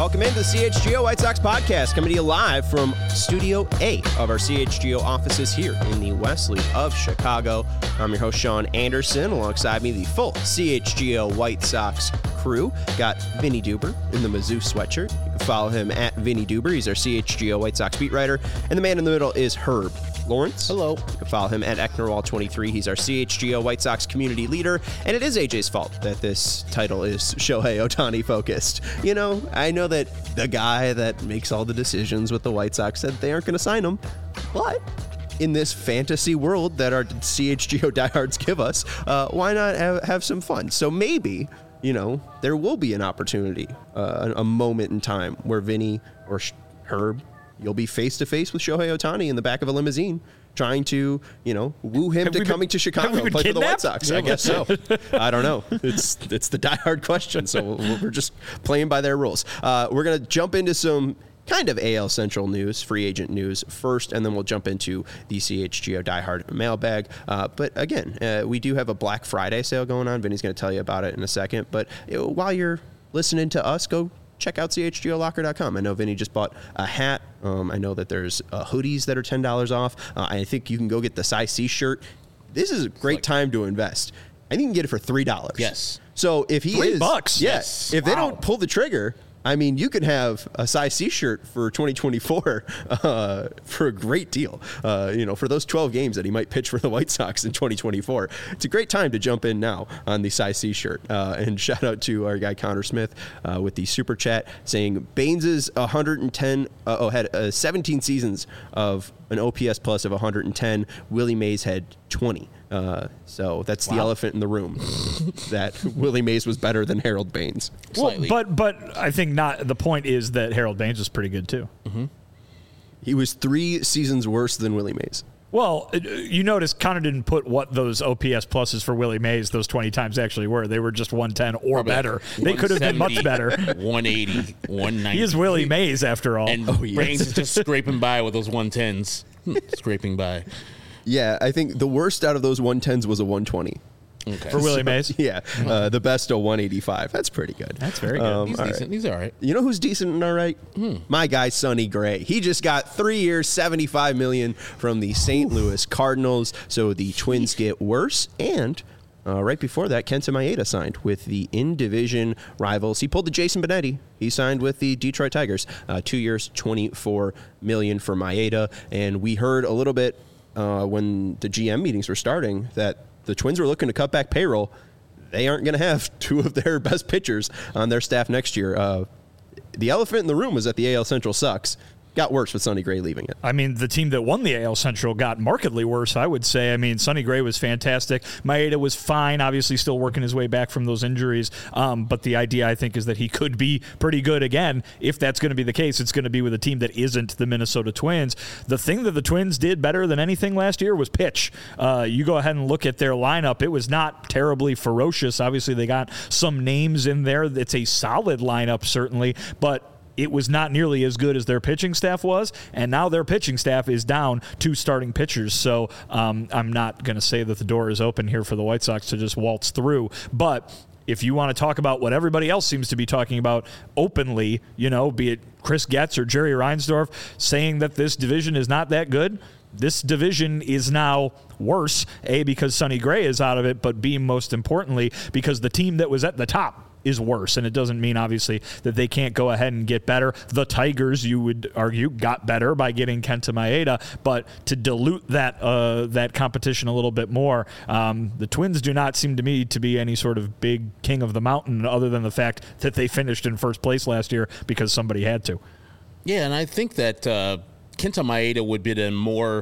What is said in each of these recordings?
Welcome into the CHGO White Sox podcast, coming to you live from Studio A of our CHGO offices here in the West Loop of Chicago. I'm your host, Sean Anderson. Alongside me, the full CHGO White Sox crew. Got Vinny Duber in the Mizzou sweatshirt. You can follow him at Vinny Duber. He's our CHGO White Sox beat writer. And the man in the middle is Herb Lawrence. Hello. You can follow him at Ecknerwall23. He's our CHGO White Sox community leader. And it is AJ's fault that this title is Shohei Ohtani focused. You know, I know that the guy that makes all the decisions with the White Sox said they aren't going to sign him. But in this fantasy world that our CHGO diehards give us, why not have some fun? So maybe, you know, there will be an opportunity, a moment in time where Vinny or Herb, you'll be face-to-face with Shohei Ohtani in the back of a limousine trying to, you know, woo him to coming to Chicago and play for the White Sox. I guess so. I don't know. It's the diehard question, so we're just playing by their rules. We're going to jump into some kind of AL Central news, free agent news first, and then we'll jump into the CHGO diehard mailbag. But again, we do have a Black Friday sale going on. Vinny's going to tell you about it in a second. But while you're listening to us, go check out chgolocker.com. I know Vinny just bought a hat. I know that there's hoodies that are $10 off. I think you can go get the size C shirt. This is a great time to invest. I think you can get it for $3. Yes. So if he is $3, yes. If they don't pull the trigger, I mean, you can have a size C shirt for 2024 for a great deal. You know, for those 12 games that he might pitch for the White Sox in 2024, it's a great time to jump in now on the size C shirt. And shout out to our guy Connor Smith with the super chat saying Baines' 110 had 17 seasons of an OPS plus of 110. Willie Mays had 20. So that's the elephant in the room, that Willie Mays was better than Harold Baines. Well, but I think not. The point is that Harold Baines was pretty good too. Mm-hmm. He was 3 seasons worse than Willie Mays. Well, you notice Connor didn't put what those OPS pluses for Willie Mays those 20 times actually were. They were just 110 or better. They could have been much better. 180, 190. He is Willie Mays after all. And Baines is just scraping by with those 110s. Scraping by. Yeah, I think the worst out of those 110s was a 120. Okay. For Willie Mays? Yeah. The best a 185. That's pretty good. That's very good. He's decent. Right. He's all right. You know who's decent and all right? My guy, Sonny Gray. He just got 3 years, $75 million from the St. Louis Cardinals. So the Twins get worse. And right before that, Kenta Maeda signed with the in-division rivals. He pulled the Jason Benetti. He signed with the Detroit Tigers. 2 years, $24 million for Maeda. And we heard a little bit when the GM meetings were starting that the Twins were looking to cut back payroll. They aren't going to have 2 of their best pitchers on their staff next year. The elephant in the room was that the AL Central sucks. Got worse with Sonny Gray leaving it. I mean, the team that won the AL Central got markedly worse, I would say. I mean, Sonny Gray was fantastic. Maeda was fine, obviously still working his way back from those injuries. But the idea, I think, is that he could be pretty good again. If that's going to be the case, it's going to be with a team that isn't the Minnesota Twins. The thing that the Twins did better than anything last year was pitch. You go ahead and look at their lineup. It was not terribly ferocious. Obviously, they got some names in there. It's a solid lineup, certainly, but it was not nearly as good as their pitching staff was, and now their pitching staff is down 2 starting pitchers. So I'm not going to say that the door is open here for the White Sox to just waltz through. But if you want to talk about what everybody else seems to be talking about openly, you know, be it Chris Getz or Jerry Reinsdorf saying that this division is not that good, this division is now worse, A, because Sonny Gray is out of it, but B, most importantly, because the team that was at the top is worse. And it doesn't mean, obviously, that they can't go ahead and get better. The Tigers, you would argue, got better by getting Kenta Maeda, but to dilute that competition a little bit more, the Twins do not seem to me to be any sort of big king of the mountain other than the fact that they finished in first place last year because somebody had to. Yeah, and I think that Kenta Maeda would be the more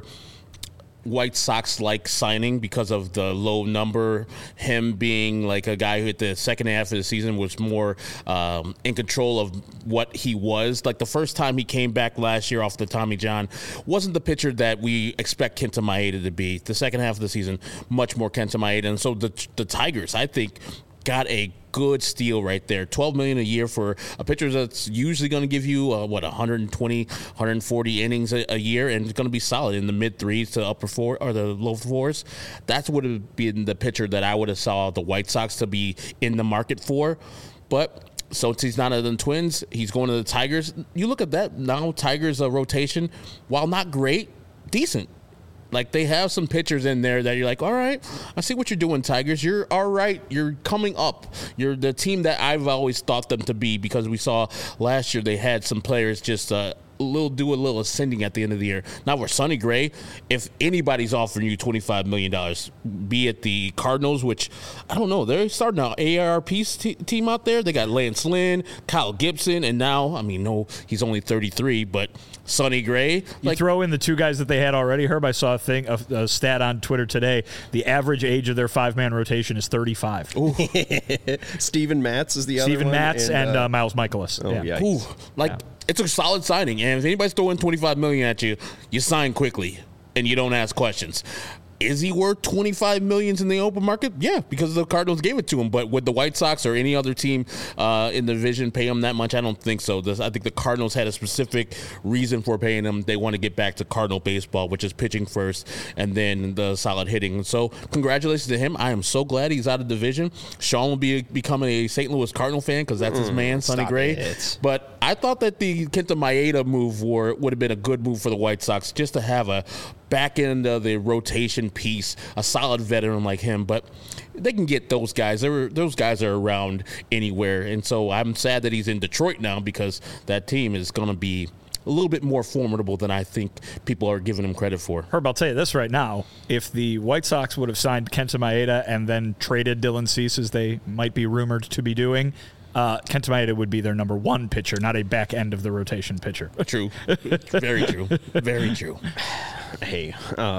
White Sox-like signing because of the low number, him being like a guy who at the second half of the season was more in control of what he was. Like the first time he came back last year off the Tommy John wasn't the pitcher that we expect Kenta Maeda to be. The second half of the season, much more Kenta Maeda. And so the Tigers, I think, got a good steal right there. $12 million a year for a pitcher that's usually going to give you 120, 140 innings a year, and it's going to be solid in the mid threes to upper four or the low fours. That's would have been the pitcher that I would have saw the White Sox to be in the market for. But So he's not in the Twins. He's going to the Tigers. You look at that now. Tigers' rotation, while not great, decent. Like, they have some pitchers in there that you're like, all right, I see what you're doing, Tigers. You're all right. You're coming up. You're the team that I've always thought them to be, because we saw last year they had some players just do a little ascending at the end of the year. Now we're Sonny Gray. If anybody's offering you $25 million, be it the Cardinals, which I don't know, they're starting an AARP team out there. They got Lance Lynn, Kyle Gibson, and now, I mean, no, he's only 33, but Sonny Gray. You throw in the two guys that they had already. Herb, I saw a stat on Twitter today. The average age of their 5-man rotation is 35. Steven Matz is the other one. Steven Matz and Miles Michaelis. Oh, yeah. It's a solid signing, and if anybody's throwing $25 million at you, you sign quickly and you don't ask questions. Is he worth $25 million in the open market? Yeah, because the Cardinals gave it to him. But would the White Sox or any other team in the division pay him that much? I don't think so. I think the Cardinals had a specific reason for paying him. They want to get back to Cardinal baseball, which is pitching first and then the solid hitting. So congratulations to him. I am so glad he's out of division. Sean will be becoming a St. Louis Cardinal fan because that's his man, Sonny Gray. But I thought that the Kenta Maeda move would have been a good move for the White Sox, just to have a back end of the rotation piece, a solid veteran like him. But they can get those guys. Those guys are around anywhere. And so I'm sad that he's in Detroit now, because that team is going to be a little bit more formidable than I think people are giving him credit for. Herb, I'll tell you this right now. If the White Sox would have signed Kenta Maeda and then traded Dylan Cease, as they might be rumored to be doing, Kenta Maeda would be their number one pitcher, not a back end of the rotation pitcher. True. Very true. Very true. Hey,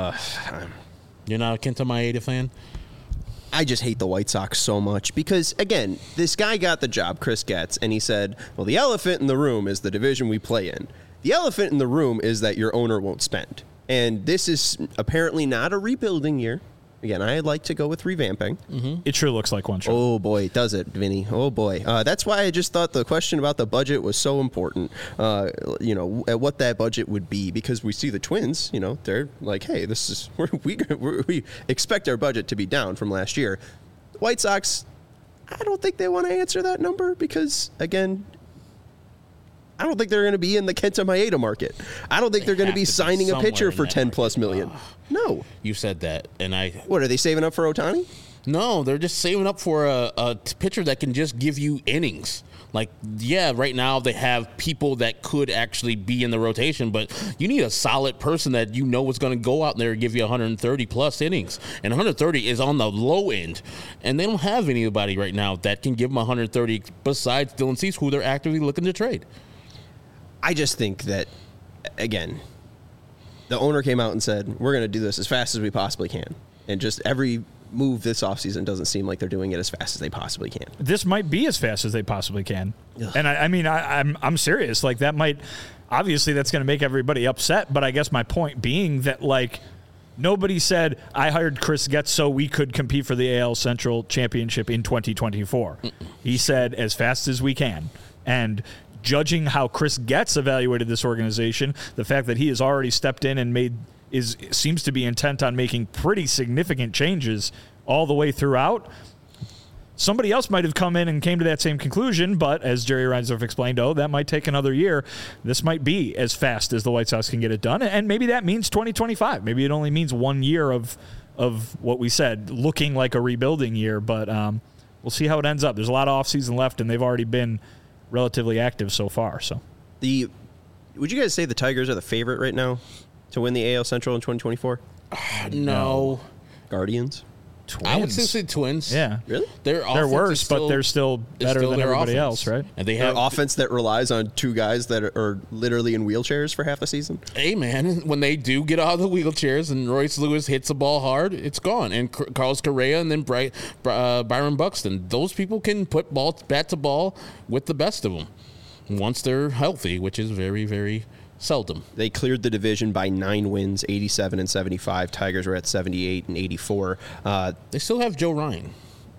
you're not a Kenta Maeda fan? I just hate the White Sox so much because, again, this guy got the job, Chris Getz, and he said, well, the elephant in the room is the division we play in. The elephant in the room is that your owner won't spend. And this is apparently not a rebuilding year. Again, I like to go with revamping. Mm-hmm. It sure looks like one. Sure. Oh, boy, does it, Vinny. Oh, boy. That's why I just thought the question about the budget was so important, at what that budget would be, because we see the Twins, they're like, hey, this is we expect our budget to be down from last year. The White Sox, I don't think they want to answer that number because, again, I don't think they're going to be in the Kenta Maeda market. I don't think they're going to be signing a pitcher for $10+ million. No. You said that, and I... What, are they saving up for Ohtani? No, they're just saving up for a pitcher that can just give you innings. Like, yeah, right now they have people that could actually be in the rotation, but you need a solid person that you know is going to go out there and give you 130-plus innings. And 130 is on the low end. And they don't have anybody right now that can give them 130 besides Dylan Cease, who they're actively looking to trade. I just think that, again, the owner came out and said, we're going to do this as fast as we possibly can. And just every move this offseason doesn't seem like they're doing it as fast as they possibly can. This might be as fast as they possibly can. Ugh. And I'm serious. Like, that might, obviously that's going to make everybody upset. But I guess my point being that, like, nobody said, I hired Chris Getz so we could compete for the AL Central Championship in 2024. He said, as fast as we can. And judging how Chris Getz evaluated this organization, the fact that he has already stepped in and seems to be intent on making pretty significant changes all the way throughout. Somebody else might have come in and came to that same conclusion, but as Jerry Reinsdorf explained, that might take another year. This might be as fast as the White Sox can get it done, and maybe that means 2025. Maybe it only means 1 year of what we said, looking like a rebuilding year, but we'll see how it ends up. There's a lot of offseason left, and they've already been relatively active so far. So, would you guys say the Tigers are the favorite right now to win the AL Central in 2024? No. Guardians? Twins. I would still say Twins. Yeah. Really? They're worse, but they're still better than everybody else, right? And they have an offense that relies on two guys that are literally in wheelchairs for half the season. Hey, man, when they do get out of the wheelchairs and Royce Lewis hits the ball hard, it's gone. And Carlos Correa and then Byron Buxton, those people can put bat to ball with the best of them once they're healthy, which is very, very seldom. They cleared the division by 9 wins, 87 and 75. Tigers were at 78 and 84. They still have Joe Ryan.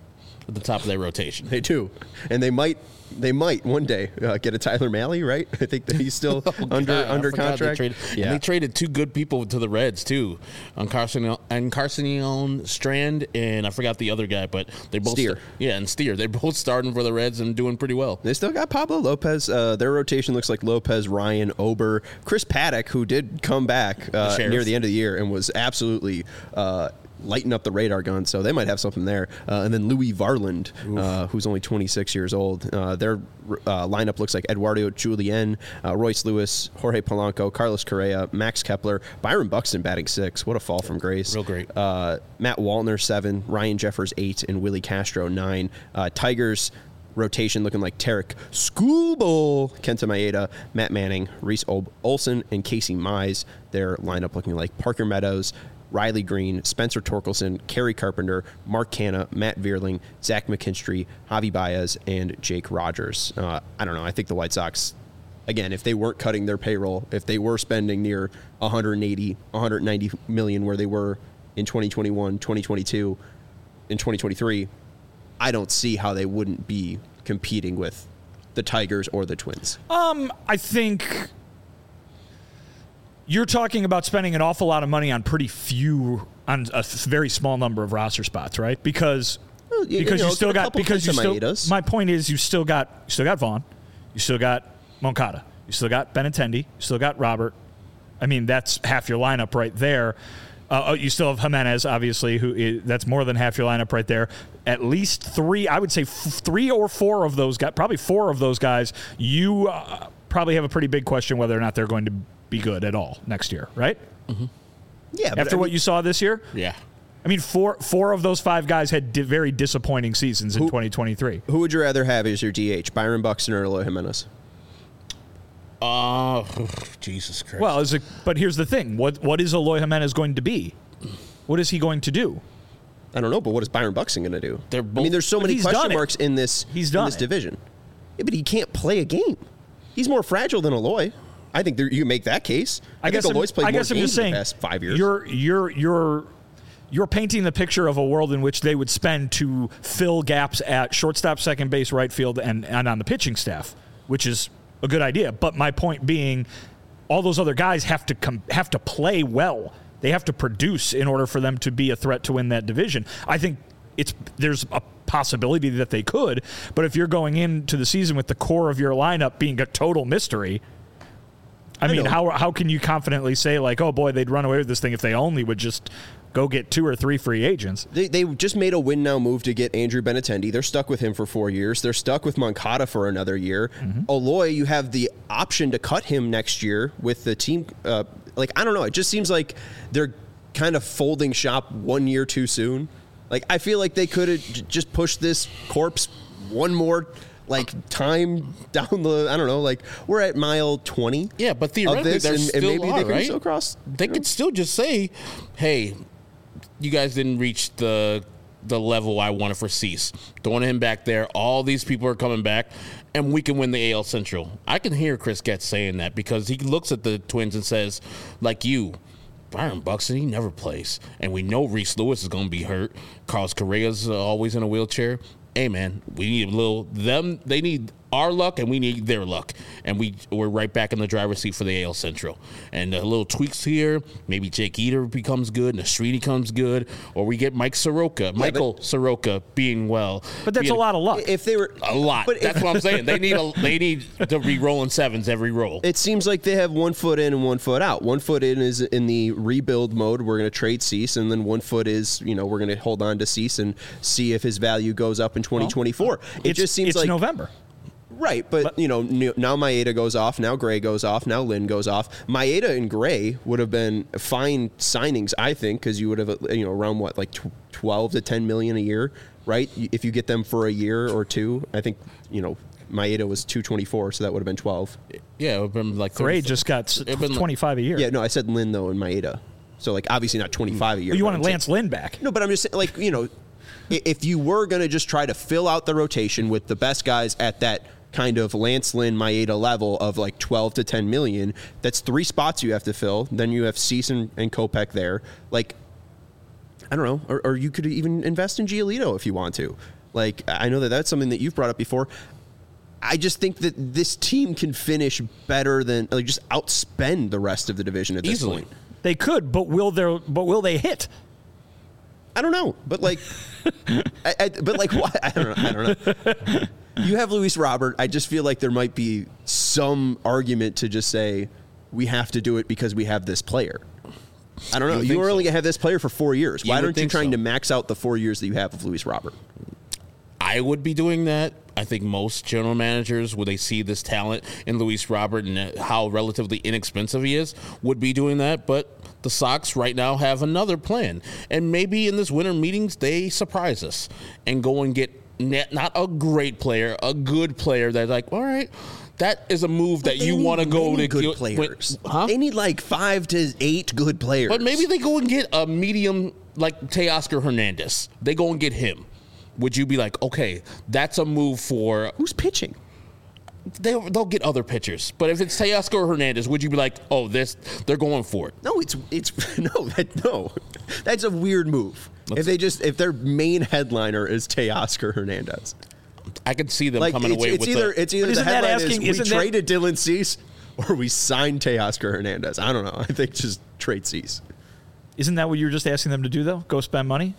at the top of their rotation. They do, and they might one day get a Tyler Mahle, right? I think that he's still under contract. They traded two good people to the Reds too, Carson Strand, and I forgot the other guy, but they both Steer. And Steer. They're both starting for the Reds and doing pretty well. They still got Pablo Lopez. Their rotation looks like Lopez, Ryan, Ober, Chris Paddock, who did come back near the end of the year and was absolutely lighting up the radar gun, so they might have something there. And then Louis Varland, who's only 26 years old. Their lineup looks like Eduardo Julien, Royce Lewis, Jorge Polanco, Carlos Correa, Max Kepler, Byron Buxton batting 6. What a fall from grace. Real great. Matt Wallner 7, Ryan Jeffers 8, and Willie Castro 9. Tigers rotation looking like Tarek Skubal, Kenta Maeda, Matt Manning, Reese Olson, and Casey Mize. Their lineup looking like Parker Meadows, Riley Green, Spencer Torkelson, Kerry Carpenter, Mark Canha, Matt Vierling, Zach McKinstry, Javi Baez, and Jake Rogers. I don't know. I think the White Sox, again, if they weren't cutting their payroll, if they were spending near 180, 190 million where they were in 2021, 2022, in 2023, I don't see how they wouldn't be competing with the Tigers or the Twins. I think you're talking about spending an awful lot of money on on a very small number of roster spots, right? Because my point is you still got Vaughn, you still got Moncada, you still got Benintendi, you still got Robert. I mean, that's half your lineup right there. You still have Jimenez, obviously, that's more than half your lineup right there. At least 3, I would say 3 or 4 of those guys, probably 4 of those guys, you probably have a pretty big question whether or not they're going to be good at all next year, right? Mm-hmm. Yeah. After what you saw this year? Yeah. I mean, four of those 5 guys had very disappointing seasons in 2023. Who would you rather have as your DH, Byron Buxton or Eloy Jimenez? Jesus Christ. Well, but here's the thing. What is Eloy Jimenez going to be? What is he going to do? I don't know, but what is Byron Buxton going to do? I mean, there's so many question marks in this division. Yeah, but he can't play a game. He's more fragile than Eloy. I think you can make that case. I think Eloy's played more games in the past 5 years. You're painting the picture of a world in which they would spend to fill gaps at shortstop, second base, right field, and on the pitching staff, which is a good idea. But my point being, all those other guys have to play well. They have to produce in order for them to be a threat to win that division. I think there's a possibility that they could, but if you're going into the season with the core of your lineup being a total mystery, I mean, how can you confidently say, like, oh boy, they'd run away with this thing if they only would just go get 2 or 3 free agents? They just made a win now move to get Andrew Benintendi. They're stuck with him for 4 years. They're stuck with Moncada for another year. Mm-hmm. Eloy, you have the option to cut him next year with the team. I don't know. It just seems like they're kind of folding shop 1 year too soon. Like, I feel like they could have just pushed this corpse one more time down the, I don't know, we're at mile 20. Yeah, but theoretically, and maybe they could still cross. They could still just say, hey, you guys didn't reach the level I wanted for Cease. Throwing him back there. All these people are coming back, and we can win the AL Central. I can hear Chris Getz saying that because he looks at the Twins and says, like you, Byron Buxton, he never plays. And we know Reese Lewis is going to be hurt. Carlos Correa's always in a wheelchair. Hey, man, we need they need our luck and we need their luck. And we're right back in the driver's seat for the AL Central. And a little tweaks here, maybe Jake Eater becomes good, Nasridi comes good, or we get Michael Soroka being well. But that's a lot of luck. If they were a lot, that's what I'm saying. They need to be rolling 7s every roll. It seems like they have 1 foot in and 1 foot out. 1 foot in is in the rebuild mode. We're going to trade Cease, and then 1 foot is, we're going to hold on to Cease and see if his value goes up in 2024. It just seems like November. Right, but now Maeda goes off, now Gray goes off, now Lynn goes off. Maeda and Gray would have been fine signings, I think, because you would have around 12 to 10 million a year, right? If you get them for a year or 2, I think Maeda was 224, so that would have been 12. Yeah, it would have been like Gray just got 25 a year. Yeah, no, I said Lynn though and Maeda, so obviously not 25 a year. You wanted Lance Lynn back? No, but I'm just saying, if you were going to just try to fill out the rotation with the best guys at that kind of Lance Lynn, Maeda level of 12 to 10 million, that's 3 spots you have to fill. Then you have Cease and Kopech there. I don't know. Or you could even invest in Giolito if you want to. Like, I know that that's something that you've brought up before. I just think that this team can finish better than, like, just outspend the rest of the division at this Easily. point. They could, but will they hit? I don't know, but like, but like, what? I don't know. You have Luis Robert. I just feel like there might be some argument to just say we have to do it because we have this player. I don't know. You only have this player for 4 years. Why aren't you trying to max out the 4 years that you have of Luis Robert? I would be doing that. I think most general managers, when they see this talent in Luis Robert and how relatively inexpensive he is, would be doing that. But the Sox right now have another plan. And maybe in this winter meetings, they surprise us and go and get not a great player, a good player that's like, all right, that is a move that you want to go to good players. Huh? They need like 5 to 8 good players. But maybe they go and get a medium like Teoscar Hernandez. They go and get him. Would you be like, okay, that's a move for... Who's pitching? They'll get other pitchers. But if it's Teoscar Hernandez, would you be like, oh, they're going for it? No, no. That's a weird move. If their main headliner is Teoscar Hernandez. I could see them coming away with It's either the headline is we traded Dylan Cease or we signed Teoscar Hernandez. I don't know. I think just trade Cease. Isn't that what you were just asking them to do, though? Go spend money?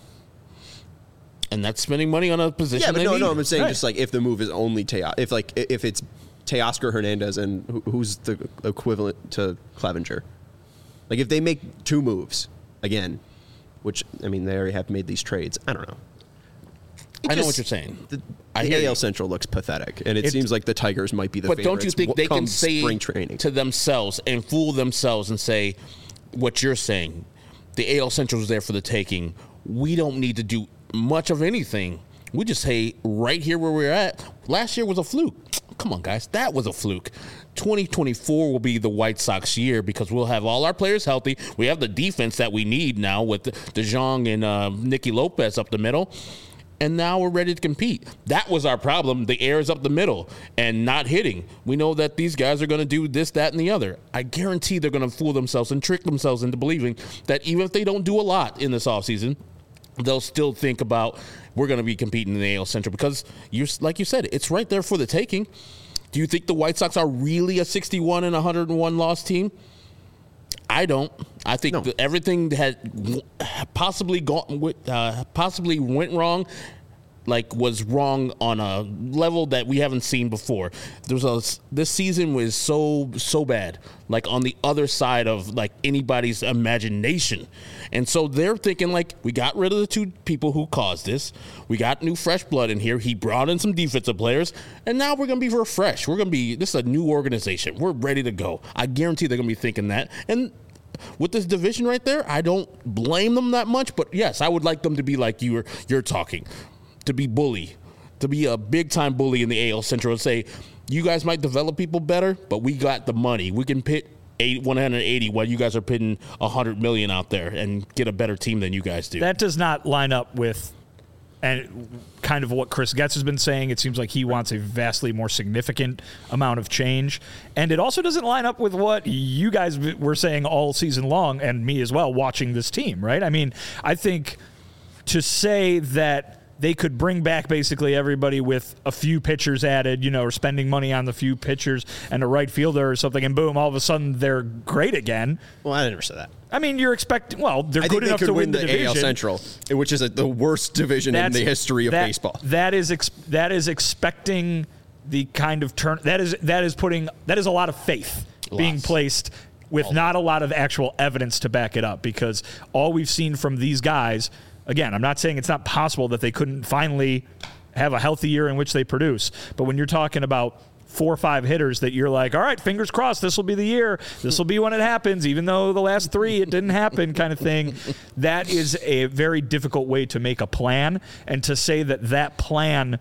And that's spending money on a position. Yeah, but they need. I'm saying Right. just like if the move is only if it's Teoscar Hernandez and who's the equivalent to Clevenger, like if they make 2 moves again, which I mean they already have made these trades. I don't know. I know what you're saying. The hear AL you. Central looks pathetic, and it seems like the Tigers might be the But favorites. don't you think they come can say spring training to themselves and fool themselves and say what you're saying? The AL Central is there for the taking. We don't need to do much of anything. We just say right here where we're at. Last year was a fluke. Come on, guys. That was a fluke. 2024 will be the White Sox year because we'll have all our players healthy. We have the defense that we need now with DeJong and Nicky Lopez up the middle. And now we're ready to compete. That was our problem. The air is up the middle and not hitting. We know that these guys are going to do this, that, and the other. I guarantee they're going to fool themselves and trick themselves into believing that even if they don't do a lot in this offseason, they'll still think about we're going to be competing in the AL Central because, like you said, it's right there for the taking. Do you think the White Sox are really a 61 and 101 loss team? I don't. I think that everything had possibly went wrong, like was wrong on a level that we haven't seen before. This season was so bad, like on the other side of like anybody's imagination. And so they're thinking like, we got rid of the 2 people who caused this. We got new fresh blood in here. He brought in some defensive players, and now we're going to be refreshed. This is a new organization. We're ready to go. I guarantee they're going to be thinking that. And with this division right there, I don't blame them that much. But yes, I would like them to be like you're talking, to be a big-time bully in the AL Central and say, you guys might develop people better, but we got the money. We can pit 180 while you guys are pitting 100 million out there and get a better team than you guys do. That does not line up with and kind of what Chris Getz has been saying. It seems like he wants a vastly more significant amount of change. And it also doesn't line up with what you guys were saying all season long, and me as well, watching this team, right? I mean, I think to say that they could bring back basically everybody with a few pitchers added, or spending money on the few pitchers and a right fielder or something, and boom, all of a sudden they're great again. Well, I never said that. I mean, you're expecting. Well, they're I good think enough they could to win the division. AL Central, which is the worst division in the history of baseball. That is expecting the kind of turn. That is a lot of faith being placed with not a lot of actual evidence to back it up, because all we've seen from these guys. Again, I'm not saying it's not possible that they couldn't finally have a healthy year in which they produce. But when you're talking about 4 or 5 hitters that you're like, all right, fingers crossed, this will be the year. This will be when it happens, even though the last 3, it didn't happen kind of thing. That is a very difficult way to make a plan. And to say that plan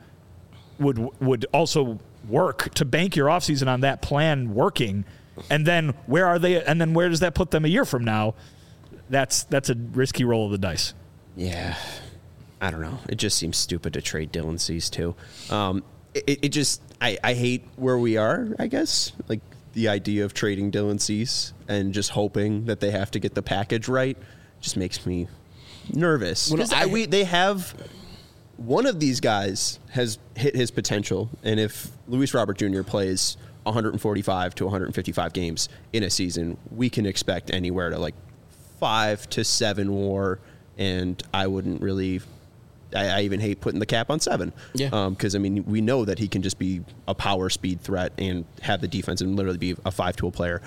would also work, to bank your offseason on that plan working, and then where are they? And then where does that put them a year from now? That's a risky roll of the dice. Yeah, I don't know. It just seems stupid to trade Dylan Cease too. I hate where we are, I guess. Like the idea of trading Dylan Cease and just hoping that they have to get the package right just makes me nervous. Because they have one of these guys has hit his potential, and if Luis Robert Jr. plays 145 to 155 games in a season, we can expect anywhere to like 5 to 7 WAR, and I wouldn't really. I even hate putting the cap on 7. Yeah. Because I mean, we know that he can just be a power speed threat and have the defense and literally be a 5-tool player.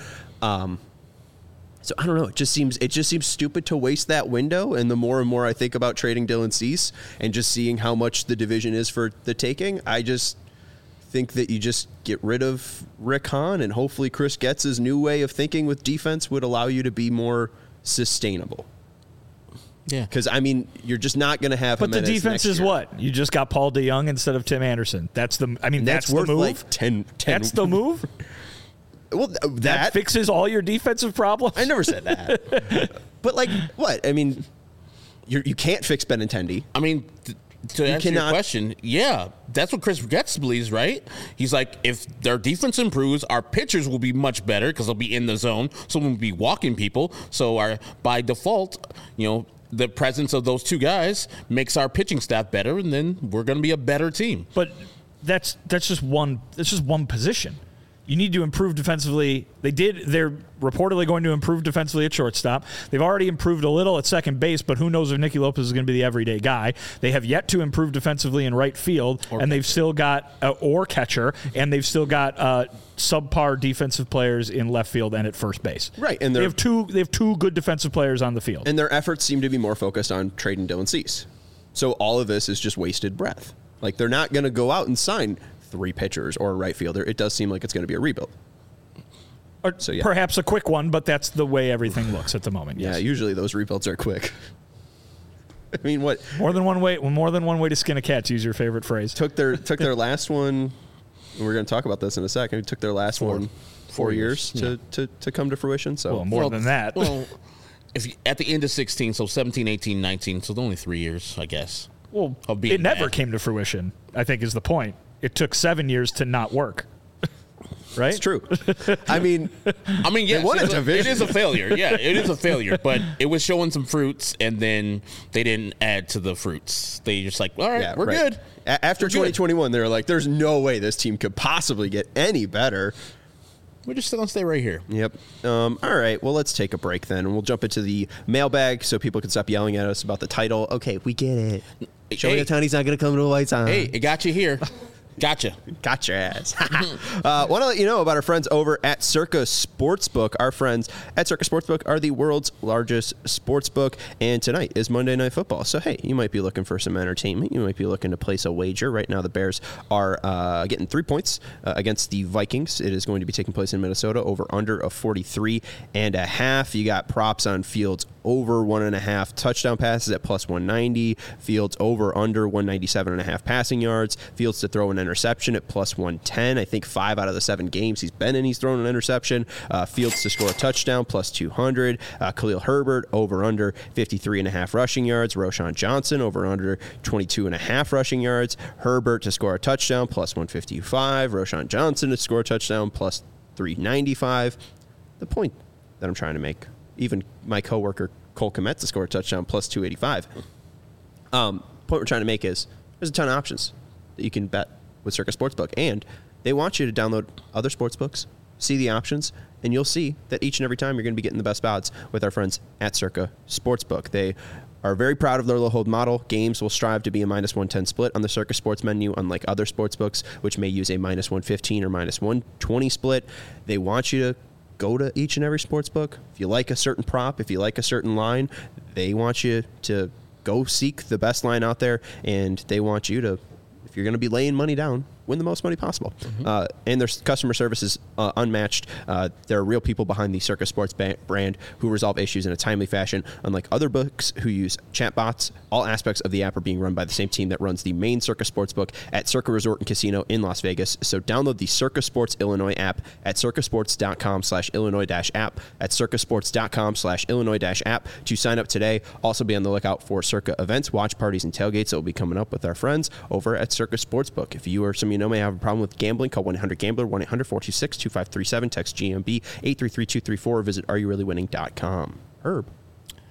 So I don't know. It just seems stupid to waste that window. And the more and more I think about trading Dylan Cease and just seeing how much the division is for the taking, I just think that you just get rid of Rick Hahn, and hopefully Chris Getz's new way of thinking with defense would allow you to be more sustainable. Yeah. Because, I mean, you're just not going to have But the Jimenez defense next is year. what? You just got Paul DeYoung instead of Tim Anderson. That's the Worth move. like 10. That's the move. Well, That fixes all your defensive problems. I never said that. But, like, what? I mean, you can't fix Benintendi. I mean, to answer your question, yeah, that's what Chris Getz believes, right? He's like, if their defense improves, our pitchers will be much better because they'll be in the zone, so we'll be walking people. So by default, the presence of those two guys makes our pitching staff better, and then we're going to be a better team. But that's just one. That's just one position. You need to improve defensively. They're reportedly going to improve defensively at shortstop. They've already improved a little at second base, but who knows if Nicky Lopez is going to be the everyday guy. They have yet to improve defensively in right field, and they've still got or catcher, and they've still got subpar defensive players in left field and at first base. Right, and they have two good defensive players on the field. And their efforts seem to be more focused on trading Dylan Cease. So all of this is just wasted breath. Like, they're not going to go out and sign 3 pitchers or a right fielder. It does seem like it's going to be a rebuild. Or perhaps a quick one, but that's the way everything looks at the moment. Yeah, yes. usually those rebuilds are quick. I mean, what? More than one way to skin a cat, to use your favorite phrase. Took their last one, and we're going to talk about this in a second. It took their last 4 years to come to fruition. So well, more than that. Well, at the end of 16, so 17, 18, 19, so only 3 years, I guess. Well, it never came to fruition, I think is the point. It took 7 years to not work. Right? It's true. I mean, yes, won a it division. is a failure. Yeah, it is a failure, but it was showing some fruits, and then they didn't add to the fruits. They just like, all right, we're good. After 2021, they were like, there's no way this team could possibly get any better. We're just going to stay right here. Yep. All right. Well, let's take a break then, and we'll jump into the mailbag so people can stop yelling at us about the title. Okay, we get it. Shohei Ohtani's not going to come to a White Sox. Hey, it got you here. Gotcha. Got your ass. Want to let you know about our friends over at Circa Sportsbook. Our friends at Circa Sportsbook are the world's largest sportsbook, and tonight is Monday Night Football. So, hey, you might be looking for some entertainment. You might be looking to place a wager. Right now, the Bears are getting 3 points against the Vikings. It is going to be taking place in Minnesota, over under of 43.5. You got props on Fields over 1.5 touchdown passes at plus 190. Fields over under 197.5 passing yards. Fields to throw an interception at plus 110. I think 5 out of the 7 games he's been in, he's thrown an interception. Fields to score a touchdown, plus 200. Khalil Herbert over under 53.5 rushing yards. Roschon Johnson over under 22.5 rushing yards. Herbert to score a touchdown, plus 155. Roschon Johnson to score a touchdown, plus 395. The point that I'm trying to make, even my coworker Cole Kmet to score a touchdown, plus 285. Point we're trying to make is there's a ton of options that you can bet with Circa Sportsbook, and they want you to download other sportsbooks, see the options, and you'll see that each and every time you're going to be getting the best odds with our friends at Circa Sportsbook. They are very proud of their low hold model. Games will strive to be a minus 110 split on the Circa Sports menu, unlike other sportsbooks, which may use a minus 115 or minus 120 split. They want you to go to each and every sportsbook. If you like a certain prop, if you like a certain line, they want you to go seek the best line out there, and they want you to, if you're going to be laying money down, win the most money possible. And their customer service is unmatched. There are real people behind the Circa Sports brand who resolve issues in a timely fashion, unlike other books who use chatbots. All aspects of the app are being run by the same team that runs the main Circa Sportsbook at Circa Resort and Casino in Las Vegas. So download the Circa Sports Illinois app at circasports.com/Illinois-app, at circasports.com/Illinois-app to sign up today. Also be on the lookout for Circa events, watch parties, and tailgates that will be coming up with our friends over at Circa Sportsbook. If you or some of you know may have a problem with gambling, call 1-800-GAMBLER, 1-800-426-2537, text GMB 833-234, or visit areyourreallywinning.com. Herb.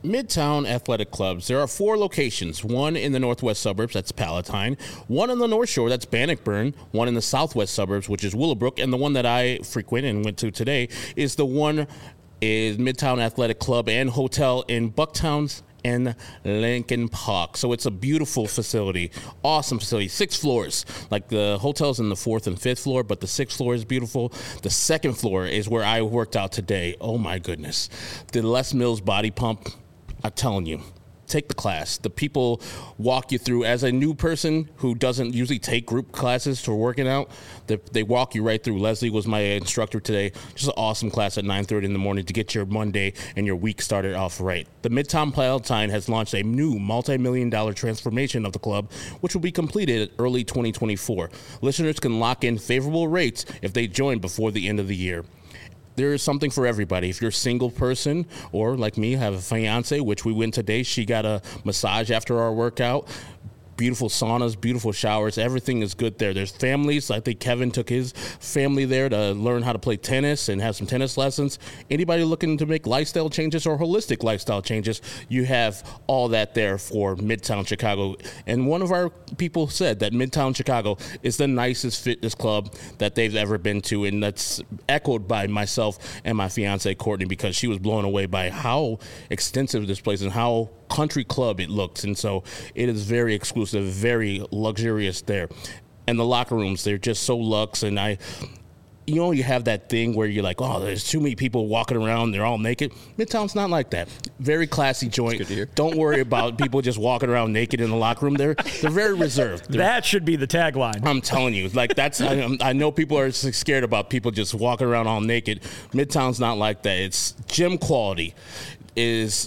Midtown Athletic Clubs. There are 4 locations. One in the northwest suburbs, that's Palatine. One on the North Shore, that's Bannockburn. One in the southwest suburbs, which is Willowbrook. And the one that I frequent and went to today is Midtown Athletic Club and Hotel in Bucktown's and Lincoln Park. So it's a beautiful facility, awesome facility, 6 floors. Like the hotel's in the 4th and 5th floor, but the 6th floor is beautiful. The 2nd floor is where I worked out today. Oh my goodness. The Les Mills body pump, I'm telling you, take the class. The people walk you through. As a new person who doesn't usually take group classes for working out, they walk you right through. Leslie was my instructor today. Just an awesome class at 9:30 in the morning to get your Monday and your week started off right. The Midtown Palatine has launched a new multi-million-dollar transformation of the club, which will be completed early 2024. Listeners can lock in favorable rates if they join before the end of the year. There is something for everybody. If you're a single person or like me, have a fiance, which we went today, she got a massage after our workout. Beautiful saunas, beautiful showers. Everything is good there. There's families. I think Kevin took his family there to learn how to play tennis and have some tennis lessons. Anybody looking to make lifestyle changes or holistic lifestyle changes, you have all that there for Midtown Chicago. And one of our people said that Midtown Chicago is the nicest fitness club that they've ever been to. And that's echoed by myself and my fiance, Courtney, because she was blown away by how extensive this place and how country club it looks. And so it is very exclusive, very luxurious there. And the locker rooms, they're just so luxe. And you have that thing where you're like, oh, there's too many people walking around, they're all naked. Midtown's not like that. Very classy joint. Good to hear. Don't worry about people just walking around naked in the locker room. They're very reserved. That should be the tagline. I'm telling you, like I know people are scared about people just walking around all naked. Midtown's not like that. It's gym quality is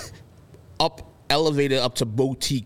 elevated up to boutique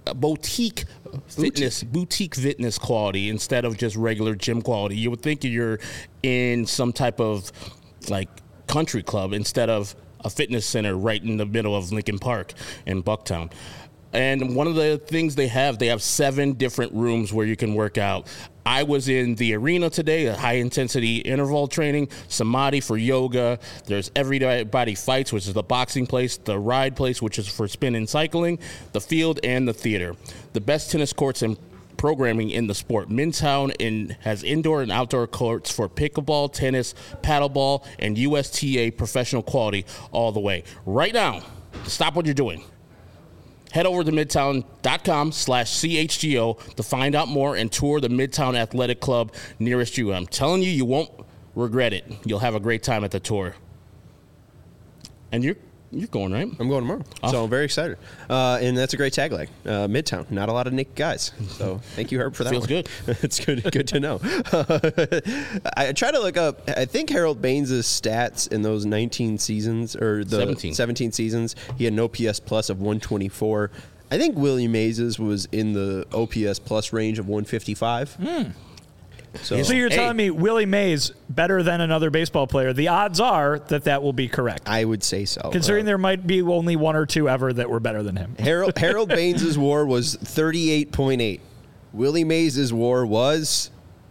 fitness quality instead of just regular gym quality. You would think you're in some type of like country club instead of a fitness center right in the middle of Lincoln Park in Bucktown. And one of the things they have 7 different rooms where you can work out. I was in the arena today, a high-intensity interval training, Samadhi for yoga. There's Everybody Fights, which is the boxing place, the ride place, which is for spin and cycling, the field, and the theater. The best tennis courts and programming in the sport. Midtown has indoor and outdoor courts for pickleball, tennis, paddleball, and USTA professional quality all the way. Right now, stop what you're doing. Head over to midtown.com/CHGO to find out more and tour the Midtown Athletic Club nearest you. I'm telling you, you won't regret it. You'll have a great time at the tour. And you're going, right? I'm going tomorrow. So I'm very excited. And that's a great tagline. Midtown, not a lot of naked guys. So thank you, Herb, for that. Feels one. good. It's good to know. I try to look up, I think Harold Baines' stats in those 19 seasons, or the 17 seasons, he had an OPS plus of 124. I think Willie Mays' was in the OPS plus range of 155. So you're telling me Willie Mays better than another baseball player? The odds are that will be correct. I would say so. Considering there might be only 1 or 2 ever that were better than him. Harold Baines' WAR was 38.8. Willie Mays' WAR was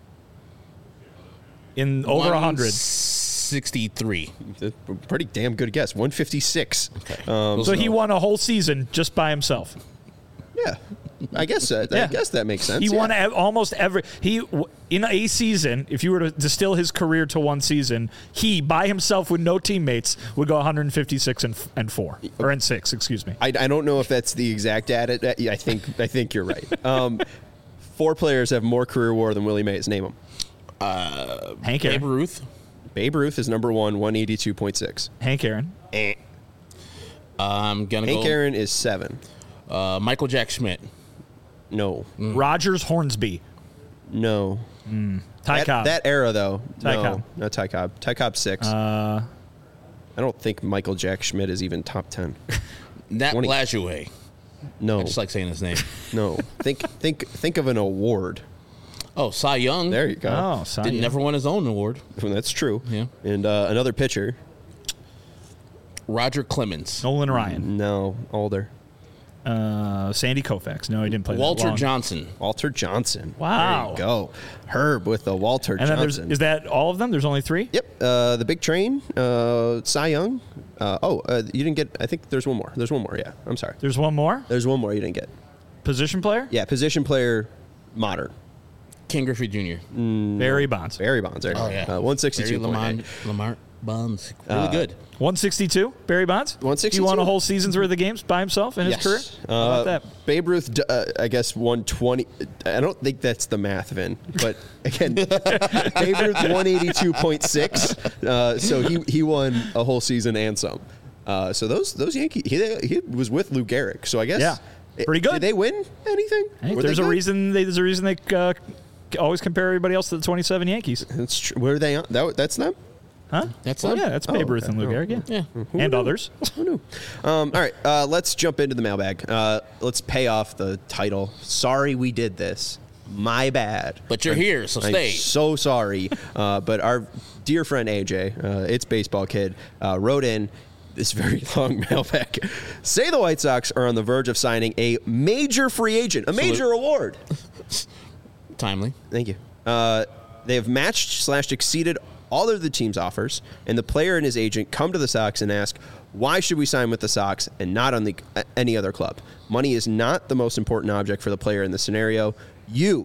in over 100. 63. Pretty damn good guess. 156. Okay. So he won a whole season just by himself. Yeah. I guess I guess that makes sense. He won almost every in a season. If you were to distill his career to one season, he by himself with no teammates would go 156 and 4 or and 6. Excuse me. I don't know if that's the exact data. I think you're right. 4 players have more career WAR than Willie Mays. Name them. Hank Aaron. Babe Ruth. Babe Ruth is number 1, 182.6. Hank Aaron. I'm gonna Hank go. Aaron is 7. Michael Jack Schmidt. No. Rogers Hornsby. No. Ty Cobb. That era though. Ty no, Cobb. not Ty Cobb. Ty Cobb 6. I don't think Michael Jack Schmidt is even top 10. Nat 20. Lajoie. No. I just like saying his name. No. Think of an award. Oh, Cy Young. There you go. Oh, Cy Young. Never won his own award. Well, that's true. Yeah. And another pitcher. Roger Clemens. Nolan Ryan. No, older. Sandy Koufax. No, he didn't play that Walter long. Johnson. Walter Johnson. Wow. There you go. Herb with the Walter And then Johnson. is that all of them? There's only 3? Yep. The Big Train, Cy Young. You didn't get, I think there's one more. There's one more, yeah. I'm sorry. There's one more? There's one more you didn't get. Position player? Yeah, position player, modern. Ken Griffey Jr. Barry Bonds. Barry Bonds. There you Oh, go. yeah. 162.8. Lamar Bonds. Really good. 162, Barry Bonds? 162? He won a whole season's worth of games by himself in his career? How about that? Babe Ruth, I guess, 120. I don't think that's the math, Vin. But again, Babe Ruth 182.6. So he won a whole season and some. So those Yankees, he was with Lou Gehrig. So I guess, Yeah, pretty good. Did they win anything? Hey, Were there's they a good? reason they always compare everybody else to the 27 Yankees. That's true. Were they on? That's them. Huh? That's Oh, them? yeah, that's Babe Ruth okay. and Lou Gehrig, yeah. And others. Who knew? All right, let's jump into the mailbag. Let's pay off the title. Sorry we did this. My bad. But you're here, so I'm stay. so sorry. But our dear friend AJ, It's Baseball Kid, wrote in this very long mailbag. Say the White Sox are on the verge of signing a major free agent, a major award. Timely. Thank you. They have matched / exceeded all of the team's offers, and the player and his agent come to the Sox and ask, why should we sign with the Sox and not on any other club? Money is not the most important object for the player in this scenario. You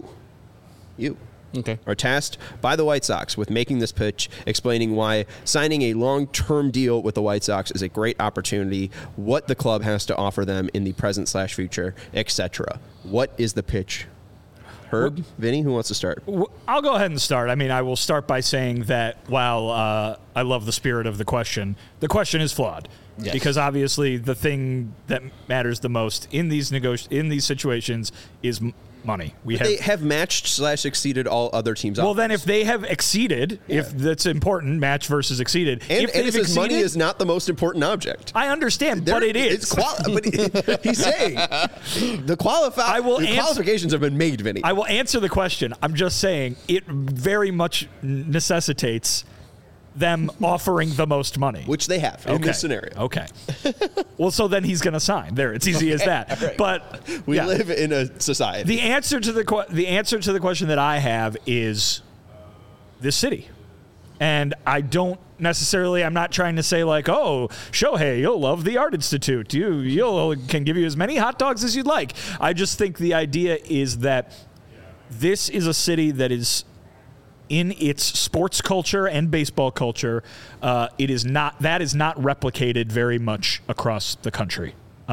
Okay. are tasked by the White Sox with making this pitch, explaining why signing a long-term deal with the White Sox is a great opportunity, what the club has to offer them in the present / future, etc. What is the pitch? Herb, Vinny, who wants to start? I'll go ahead and start. I mean, I will start by saying that while I love the spirit of the question is flawed. Yes. Because obviously the thing that matters the most in these situations is money. They have matched / exceeded all other teams' Well, offers. then if they have exceeded, if that's important, match versus exceeded. And if it they've says money exceeded- is not the most important object. I understand, but it is. But he's saying the qualifications have been made, Vinny. I will answer the question. I'm just saying it very much necessitates them offering the most money. Which they have in this scenario. Okay. Well, so then he's going to sign. There, it's easy as that. Right. But We yeah. live in a society. The answer to the question that I have is this city. And I don't necessarily, I'm not trying to say like, oh, Shohei, you'll love the Art Institute. You'll can give you as many hot dogs as you'd like. I just think the idea is that this is a city that is in its sports culture and baseball culture. That is not replicated very much across the country,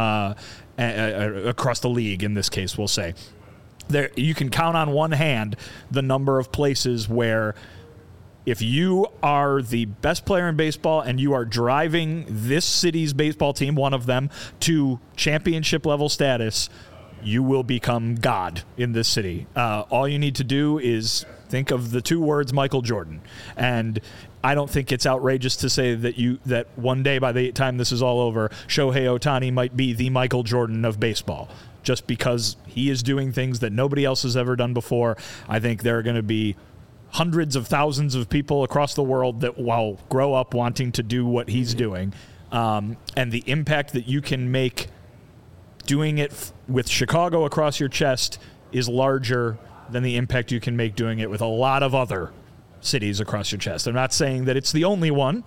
across the league in this case, we'll say. There, you can count on one hand the number of places where if you are the best player in baseball and you are driving this city's baseball team, one of them, to championship level status, you will become God in this city. All you need to do is think of the 2 words Michael Jordan. And I don't think it's outrageous to say that one day by the time this is all over, Shohei Ohtani might be the Michael Jordan of baseball. Just because he is doing things that nobody else has ever done before. I think there are going to be hundreds of thousands of people across the world that will grow up wanting to do what he's doing. And the impact that you can make doing it with Chicago across your chest is larger than the impact you can make doing it with a lot of other cities across your chest. I'm not saying that it's the only one.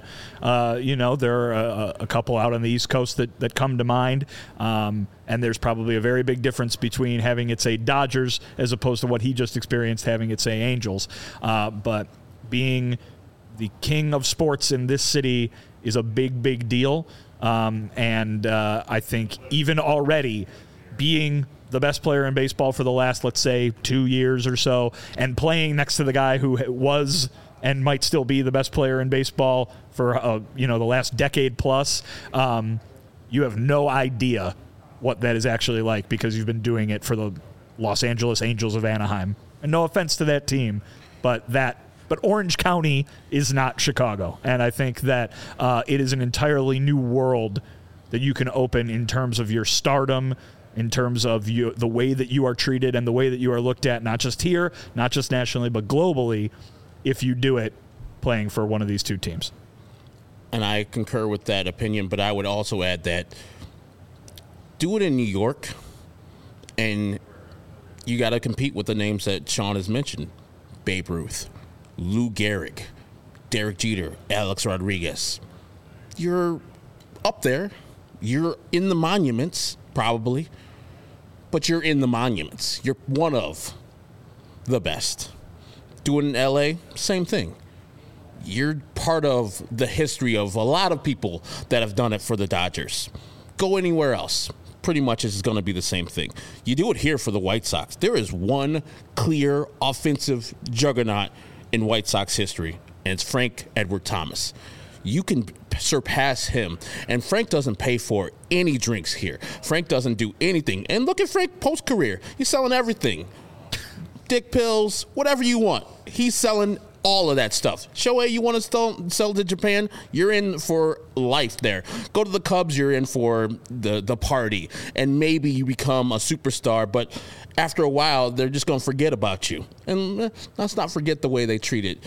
There are a couple out on the East Coast that come to mind. And there's probably a very big difference between having it say Dodgers as opposed to what he just experienced having it say Angels. But being the king of sports in this city is a big, big deal. And I think even already being the best player in baseball for the last, let's say, 2 years or so, and playing next to the guy who was and might still be the best player in baseball for the last decade plus, you have no idea what that is actually like because you've been doing it for the Los Angeles Angels of Anaheim. And no offense to that team, but Orange County is not Chicago. And I think that it is an entirely new world that you can open in terms of your stardom, in terms of the way that you are treated and the way that you are looked at, not just here, not just nationally, but globally, if you do it playing for one of these 2 teams. And I concur with that opinion, but I would also add that Do it in New York, and you got to compete with the names that Sean has mentioned. Babe Ruth, Lou Gehrig, Derek Jeter, Alex Rodriguez. You're up there. You're in the monuments, probably, but you're in the monuments. You're one of the best. Do it in L.A., same thing. You're part of the history of a lot of people that have done it for the Dodgers. Go anywhere else. Pretty much is going to be the same thing. You do it here for the White Sox. There is one clear offensive juggernaut in White Sox history, and it's Frank Edward Thomas. You can surpass him, and Frank doesn't pay for any drinks here. Frank doesn't do anything. And look at Frank post-career. He's selling everything. Dick pills, whatever you want. He's selling all of that stuff. Shohei, you want to sell to Japan? You're in for life there. Go to the Cubs, you're in for the party. And maybe you become a superstar, but after a while, they're just going to forget about you. And let's not forget the way they treated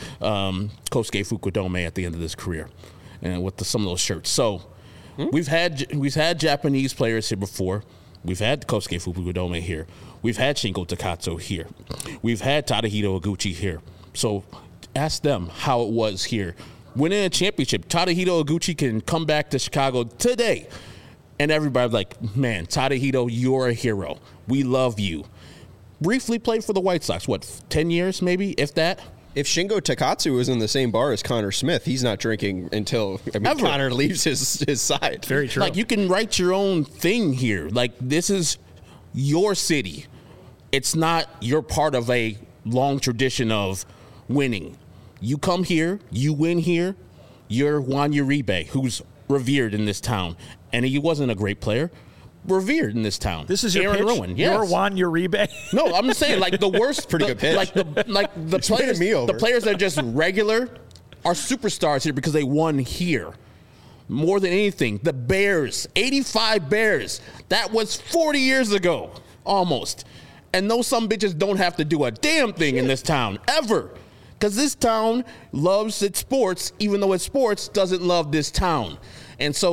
Kosuke Fukudome at the end of his career and with some of those shirts. So we've had Japanese players here before. We've had Kosuke Fukudome here. We've had Shingo Takatsu here. We've had Tadahito Iguchi here. So ask them how it was here. Winning a championship, Tadahito Iguchi can come back to Chicago today. And everybody's like, man, Tadahito, you're a hero. We love you. Briefly played for the White Sox, 10 years maybe, if that? If Shingo Takatsu was in the same bar as Connor Smith, he's not drinking until Connor leaves his side. Very true. Like, you can write your own thing here. Like, this is your city. It's not you're part of a long tradition of winning. You come here, you win here. You're Juan Uribe, who's revered in this town. And he wasn't a great player. Revered in this town. This is your Aaron pitch? Ruin. Yes. You're Juan Uribe? No, I'm just saying, like, the worst. Pretty good pitch. Like the players, the players that are just regular are superstars here because they won here. More than anything, the Bears, 85 Bears. That was 40 years ago, almost. And those some bitches don't have to do a damn thing in this town, ever. Because this town loves its sports, even though its sports doesn't love this town. And so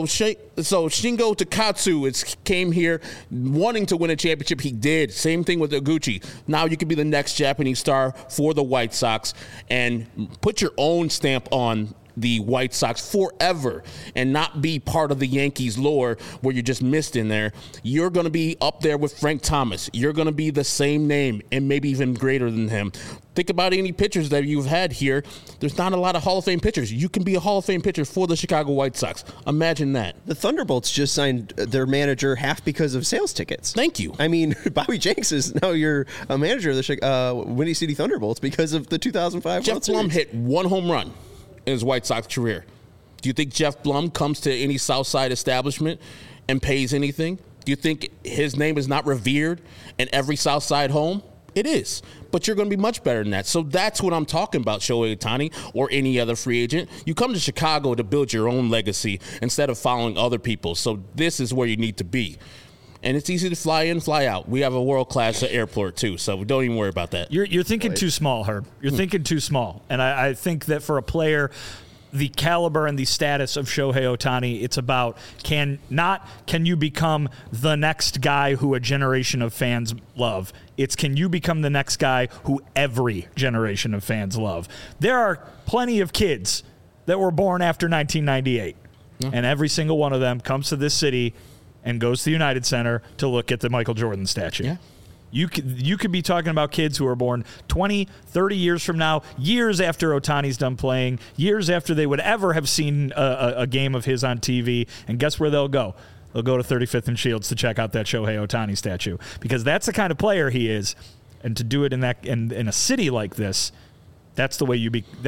Shingo Takatsu came here wanting to win a championship. He did. Same thing with Iguchi. Now you can be the next Japanese star for the White Sox and put your own stamp on the White Sox forever and not be part of the Yankees lore where you're just missed in there. You're going to be up there with Frank Thomas. You're going to be the same name and maybe even greater than him. Think about any pitchers that you've had here. There's not a lot of Hall of Fame pitchers. You can be a Hall of Fame pitcher for the Chicago White Sox. Imagine that. The Thunderbolts just signed their manager half because of sales tickets. Thank you. I mean, Bobby Jenks is now you're a manager of the Windy City Thunderbolts because of the 2005 Jeff World Series. Blum hit one home run in his White Sox career. Do you think Jeff Blum comes to any Southside establishment and pays anything? Do you think his name is not revered in every Southside home? It is. But you're going to be much better than that. So that's what I'm talking about, Shohei Ohtani or any other free agent. You come to Chicago to build your own legacy instead of following other people's. So this is where you need to be. And it's easy to fly in, fly out. We have a world-class airport, too, so don't even worry about that. You're thinking too small, Herb. You're thinking too small. And I think that for a player, the caliber and the status of Shohei Ohtani, it's about can you become the next guy who a generation of fans love. It's can you become the next guy who every generation of fans love. There are plenty of kids that were born after 1998, and every single one of them comes to this city and goes to the United Center to look at the Michael Jordan statue. Yeah. You could be talking about kids who are born 20, 30 years from now, years after Ohtani's done playing, years after they would ever have seen a game of his on TV, and guess where they'll go? They'll go to 35th and Shields to check out that Shohei Ohtani statue because that's the kind of player he is, and to do it in a city like this, that's the way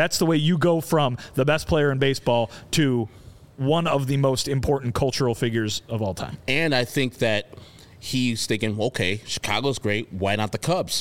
you go from the best player in baseball to one of the most important cultural figures of all time. And I think that he's thinking, okay, Chicago's great. Why not the Cubs?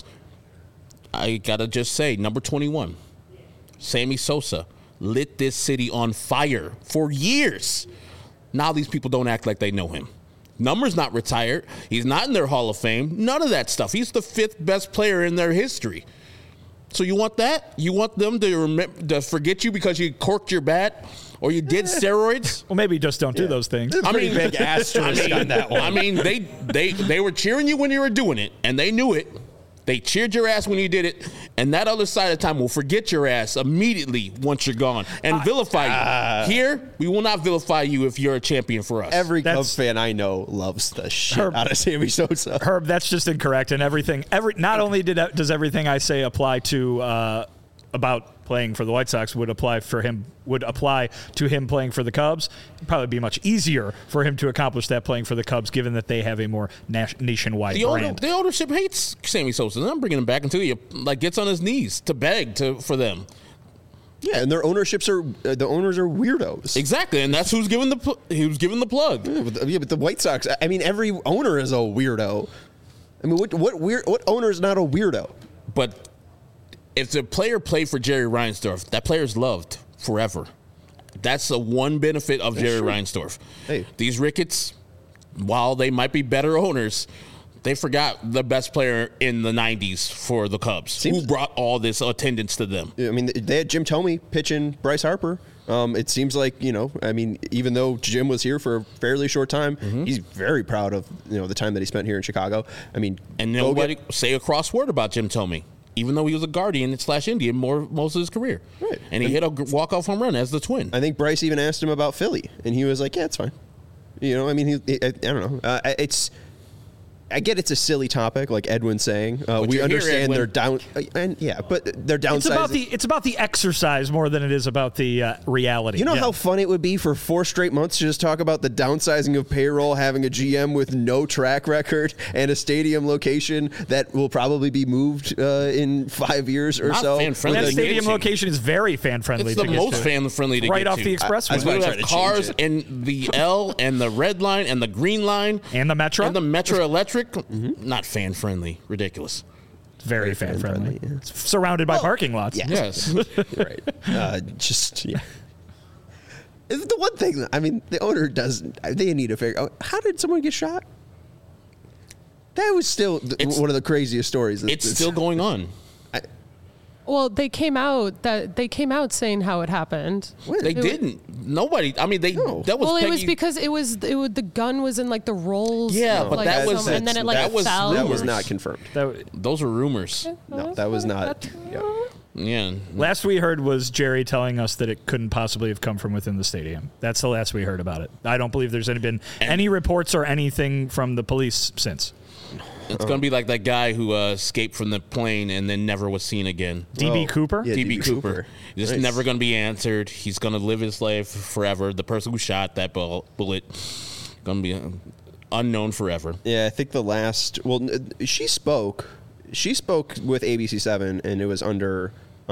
I got to just say, number 21, Sammy Sosa, lit this city on fire for years. Now these people don't act like they know him. Number's not retired. He's not in their Hall of Fame. None of that stuff. He's the 5th best player in their history. So you want that? You want them to forget you because you corked your bat or you did steroids. Well, maybe just don't do those things. Pretty big asterisk on that one. I mean, they were cheering you when you were doing it, and they knew it. They cheered your ass when you did it, and that other side of time will forget your ass immediately once you're gone and vilify you. Here, we will not vilify you if you're a champion for us. Every Cubs fan I know loves the shit out of Sammy Sosa. Herb, that's just incorrect. And everything, not only does everything I say apply to about playing for the White Sox would apply to him playing for the Cubs. It'd probably be much easier for him to accomplish that playing for the Cubs, given that they have a more nationwide brand. The ownership hates Sammy Sosa. I'm bringing him back until he gets on his knees to beg for them. Yeah, and their ownerships are the owners are weirdos. Exactly, and that's who's giving the plug. Yeah, but the White Sox. I mean, every owner is a weirdo. I mean, what owner is not a weirdo? But if the player played for Jerry Reinsdorf, that player's loved forever. That's the one benefit of Jerry Reinsdorf. Hey. These Ricketts, while they might be better owners, they forgot the best player in the 90s for the Cubs, who brought all this attendance to them. I mean, they had Jim Thome pitching Bryce Harper. It seems like, I mean, even though Jim was here for a fairly short time, he's very proud of, the time that he spent here in Chicago. I mean, and nobody say a cross word about Jim Thome, even though he was a Guardian/Indian most of his career. Right. And he hit a walk-off home run as the Twin. I think Bryce even asked him about Philly, and he was like, yeah, it's fine. I mean, I don't know. I get it's a silly topic, like Edwin's saying. We understand they're down, but they're downsizing. It's about the exercise more than it is about the reality. You know how fun it would be for 4 straight months to just talk about the downsizing of payroll, having a GM with no track record and a stadium location that will probably be moved in 5 years or so. That stadium location is very fan friendly. It's the most fan friendly to get to. Right off the expressway. We have cars in the L and the red line and the green line and the Metro Electric. Not fan friendly. Ridiculous. Very fan friendly. Yeah. It's surrounded by parking lots. Yes. Right. The one thing, I mean, the owner doesn't. They need to figure out, how did someone get shot? That was still one of the craziest stories. It's still going on. Well, they came out saying how it happened. They didn't. Nobody. I mean, No. That was. Well, Peggy. it was because the gun was in like the rolls. Yeah, but that was, and then it fell. That was not confirmed. Those are rumors. No, that was not. Yeah. Last we heard was Jerry telling us that it couldn't possibly have come from within the stadium. That's the last we heard about it. I don't believe there's been any reports or anything from the police since. It's going to be like that guy who escaped from the plane and then never was seen again. D.B. Cooper? Yeah, D.B. Cooper. Just never going to be answered. He's going to live his life forever. The person who shot that bullet going to be unknown forever. Yeah, I think the last. Well, she spoke. She spoke with ABC7, and it was under.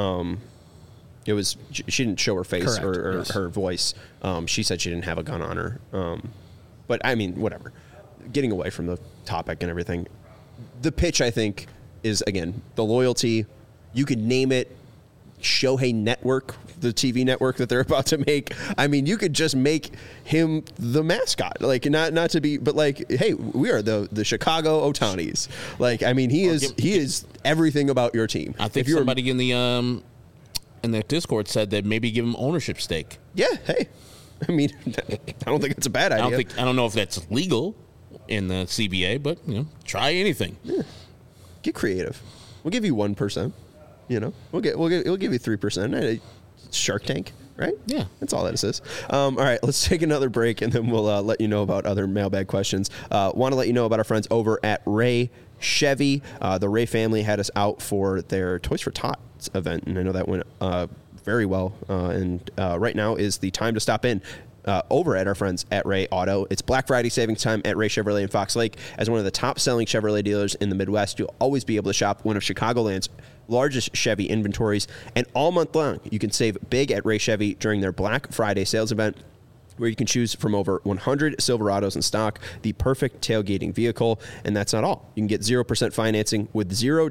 It was she didn't show her face or her voice. She said she didn't have a gun on her. But I mean, whatever. Getting away from the topic and everything. The pitch, I think, is, again, the loyalty. You could name it Shohei Network, the TV network that they're about to make. I mean, you could just make him the mascot. Like, not to be, but like, hey, we are the Chicago Ohtanis. Like, I mean, he is everything about your team. I think somebody in the Discord said that maybe give him ownership stake. Yeah, hey. I mean, I don't think it's a bad idea. I don't know if that's legal in the CBA, but try anything. Yeah. Get creative. We'll give you 1%. We'll give you 3%. Shark Tank, right? Yeah, that's all that is. All right, let's take another break, and then we'll let you know about other mailbag questions. Want to let you know about our friends over at Ray Chevy. The Ray family had us out for their Toys for Tots event, and I know that went very well. And right now is the time to stop in. Over at our friends at Ray Auto. It's Black Friday savings time at Ray Chevrolet in Fox Lake. As one of the top-selling Chevrolet dealers in the Midwest, you'll always be able to shop one of Chicagoland's largest Chevy inventories. And all month long, you can save big at Ray Chevy during their Black Friday sales event, where you can choose from over 100 Silverados in stock, the perfect tailgating vehicle. And that's not all. You can get 0% financing with $0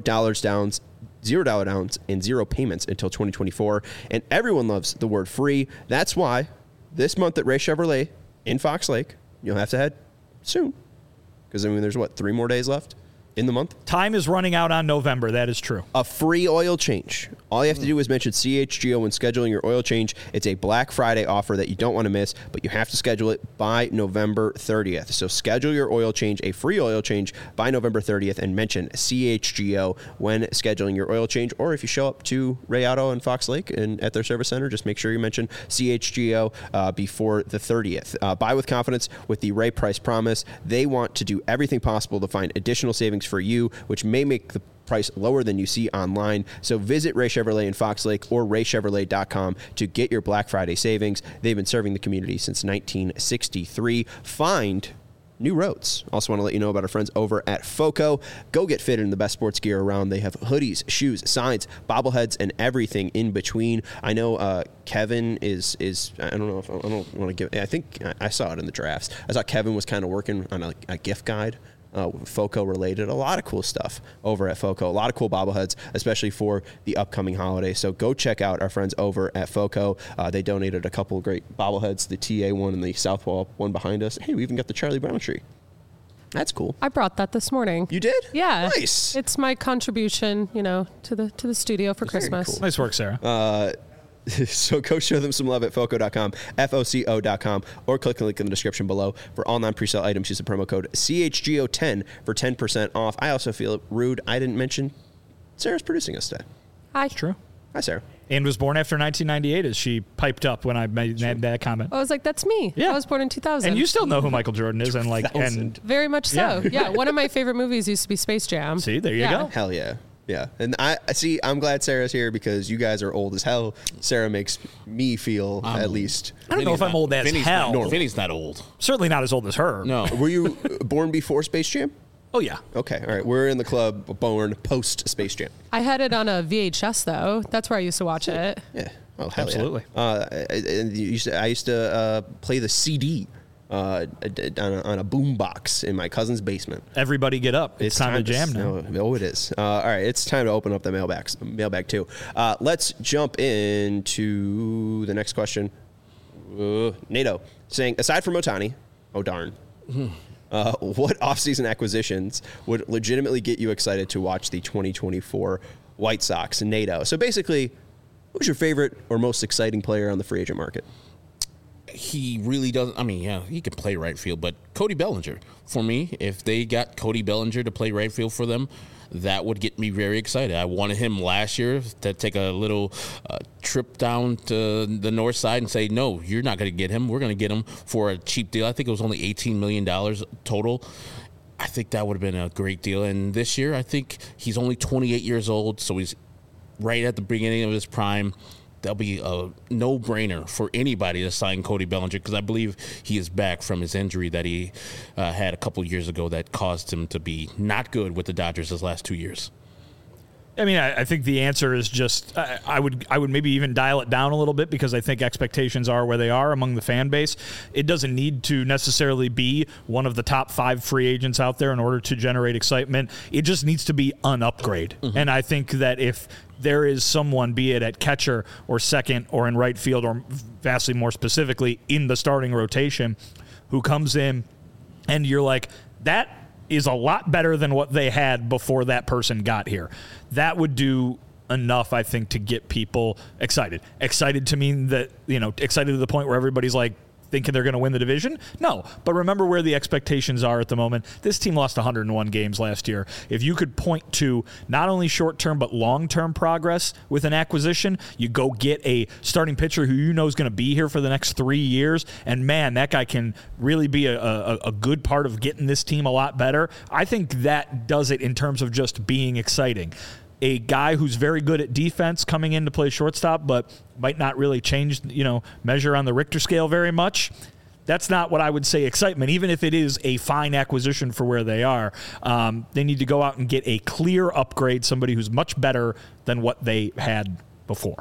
downs and 0 payments until 2024. And everyone loves the word free. That's why this month at Ray Chevrolet in Fox Lake, you'll have to head soon. Because, I mean, there's, 3 more days left? in the month. Time is running out on November. That is true. A free oil change. All you have to do is mention CHGO when scheduling your oil change. It's a Black Friday offer that you don't want to miss, but you have to schedule it by November 30th. So schedule your oil change, a free oil change, by November 30th, and mention CHGO when scheduling your oil change. Or if you show up to Ray Auto in Fox Lake and at their service center, just make sure you mention CHGO before the 30th. Buy with confidence with the Ray Price Promise. They want to do everything possible to find additional savings for you, which may make the price lower than you see online. So visit Ray Chevrolet in Fox Lake or raychevrolet.com to get your Black Friday savings. They've been serving the community since 1963. Find new roads. Also want to let you know about our friends over at FOCO. Go get fitted in the best sports gear around. They have hoodies, shoes, signs, bobbleheads, and everything in between. I know Kevin is I don't know if I don't want to give. I think I saw it in the drafts. I saw Kevin was kind of working on a gift guide. FOCO related. A lot of cool stuff over at FOCO. A lot of cool bobbleheads, especially for the upcoming holiday. So go check out our friends over at FOCO. They donated a couple of great bobbleheads, the TA one and the Southpaw one behind us. Hey, we even got the Charlie Brown tree. That's cool. I brought that this morning. You did? Yeah. Nice. It's my contribution, to the studio for Christmas. Cool. Nice work, Sarah. So go show them some love at FOCO.com, FOCO.com, or click the link in the description below. For all non-presale items, use the promo code CHGO10 for 10% off. I also feel rude I didn't mention Sarah's producing us today. Hi. True. Hi, Sarah. And was born after 1998, as she piped up when I made that comment. I was like, that's me. Yeah. I was born in 2000. And you still know who Michael Jordan is, and Very much so. Yeah. One of my favorite movies used to be Space Jam. see, there you go. Hell yeah. Yeah. And I see, I'm glad Sarah's here because you guys are old as hell. Sarah makes me feel at least. I don't know if I'm old as hell. Vinny's not old. Certainly not as old as her. No. Were you born before Space Jam? Oh, yeah. Okay. All right. We're in the club born post Space Jam. I had it on a VHS, though. That's where I used to watch it. Yeah. Oh, hell Absolutely. Yeah. And I used to play the CD on a boom box in my cousin's basement. Everybody get up. It's time to jam now. Oh, it is. All right, it's time to open up the mailbag too. Let's jump into the next question. NATO saying, aside from Ohtani, oh darn, what offseason acquisitions would legitimately get you excited to watch the 2024 White Sox? NATO. So basically, who's your favorite or most exciting player on the free agent market? He really doesn't. I mean, yeah, he can play right field, but Cody Bellinger, for me, if they got Cody Bellinger to play right field for them, that would get me very excited. I wanted him last year to take a little trip down to the north side and say, no, you're not going to get him. We're going to get him for a cheap deal. I think it was only $18 million total. I think that would have been a great deal. And this year, I think he's only 28 years old, so he's right at the beginning of his prime. That'll be a no-brainer for anybody to sign Cody Bellinger because I believe he is back from his injury that he had a couple years ago that caused him to be not good with the Dodgers his last 2 years. I mean, I think the answer is just I would maybe even dial it down a little bit because I think expectations are where they are among the fan base. It doesn't need to necessarily be one of the top 5 free agents out there in order to generate excitement. It just needs to be an upgrade. Mm-hmm. And I think that if there is someone, be it at catcher or second or in right field or vastly more specifically in the starting rotation, who comes in and you're like, that is a lot better than what they had before that person got here. That would do enough, I think, to get people excited. Excited to mean that, excited to the point where everybody's like thinking they're going to win the division? No. But remember where the expectations are at the moment. This team lost 101 games last year. If you could point to not only short-term but long-term progress with an acquisition, you go get a starting pitcher who you know is going to be here for the next 3 years, and man, that guy can really be a good part of getting this team a lot better. I think that does it in terms of just being exciting. A guy who's very good at defense coming in to play shortstop, but might not really change, measure on the Richter scale very much. That's not what I would say excitement, even if it is a fine acquisition for where they are. They need to go out and get a clear upgrade, somebody who's much better than what they had before.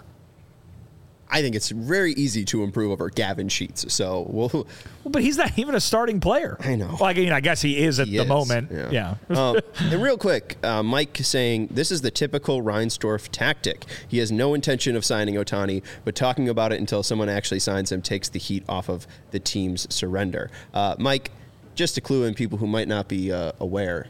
I think it's very easy to improve over Gavin Sheets. So we'll but he's not even a starting player. I know. Well, I guess he is at the moment. Yeah. And real quick, Mike saying this is the typical Reinsdorf tactic. He has no intention of signing Ohtani, but talking about it until someone actually signs him takes the heat off of the team's surrender. Mike, just to clue in people who might not be aware,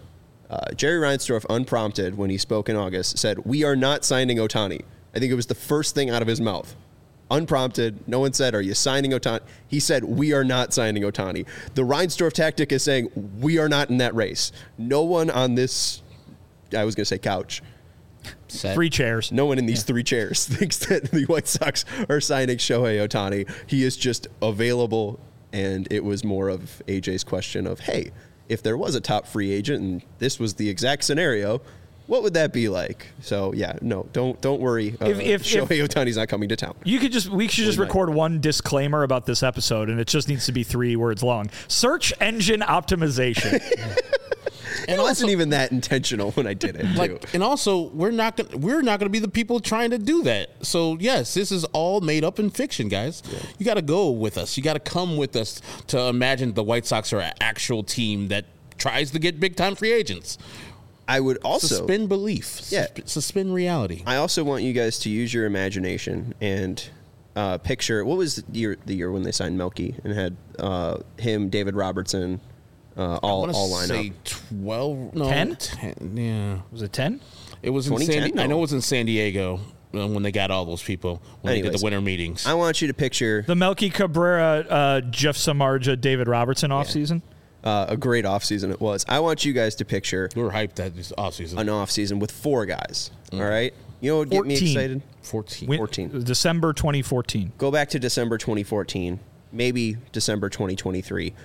Jerry Reinsdorf, unprompted, when he spoke in August, said, "We are not signing Ohtani." I think it was the first thing out of his mouth. Unprompted, no one said, "Are you signing Ohtani?" He said, "We are not signing Ohtani." The Reinsdorf tactic is saying, "We are not in that race." No one on this, I was going to say couch, Set. 3 chairs. no one in these 3 chairs thinks that the White Sox are signing Shohei Ohtani. He is just available, and it was more of AJ's question of, hey, if there was a top free agent and this was the exact scenario, what would that be like? So yeah, no, don't worry. Shohei Ohtani's not coming to town. We should just record one disclaimer about this episode, and it just needs to be 3 words long. Search engine optimization. And it wasn't even that intentional when I did it. Too. And also, we're not gonna be the people trying to do that. So yes, this is all made up in fiction, guys. Yeah. You got to go with us. You got to come with us to imagine the White Sox are an actual team that tries to get big time free agents. I would also suspend belief. Yeah. Suspend reality. I also want you guys to use your imagination and picture what was the year when they signed Melky and had him, David Robertson. All line say up. 12, no, 10? 10, yeah. Was it 10? It was in I know it was in San Diego when they got all those people when they did the winter meetings. I want you to picture the Melky Cabrera, Jeff Samardzija, David Robertson offseason. A great offseason it was. I want you guys to picture we were hyped that this offseason. An offseason with 4 guys. All right? You know what would get me excited? 14. December 2014. Go back to December 2014, maybe December 2023.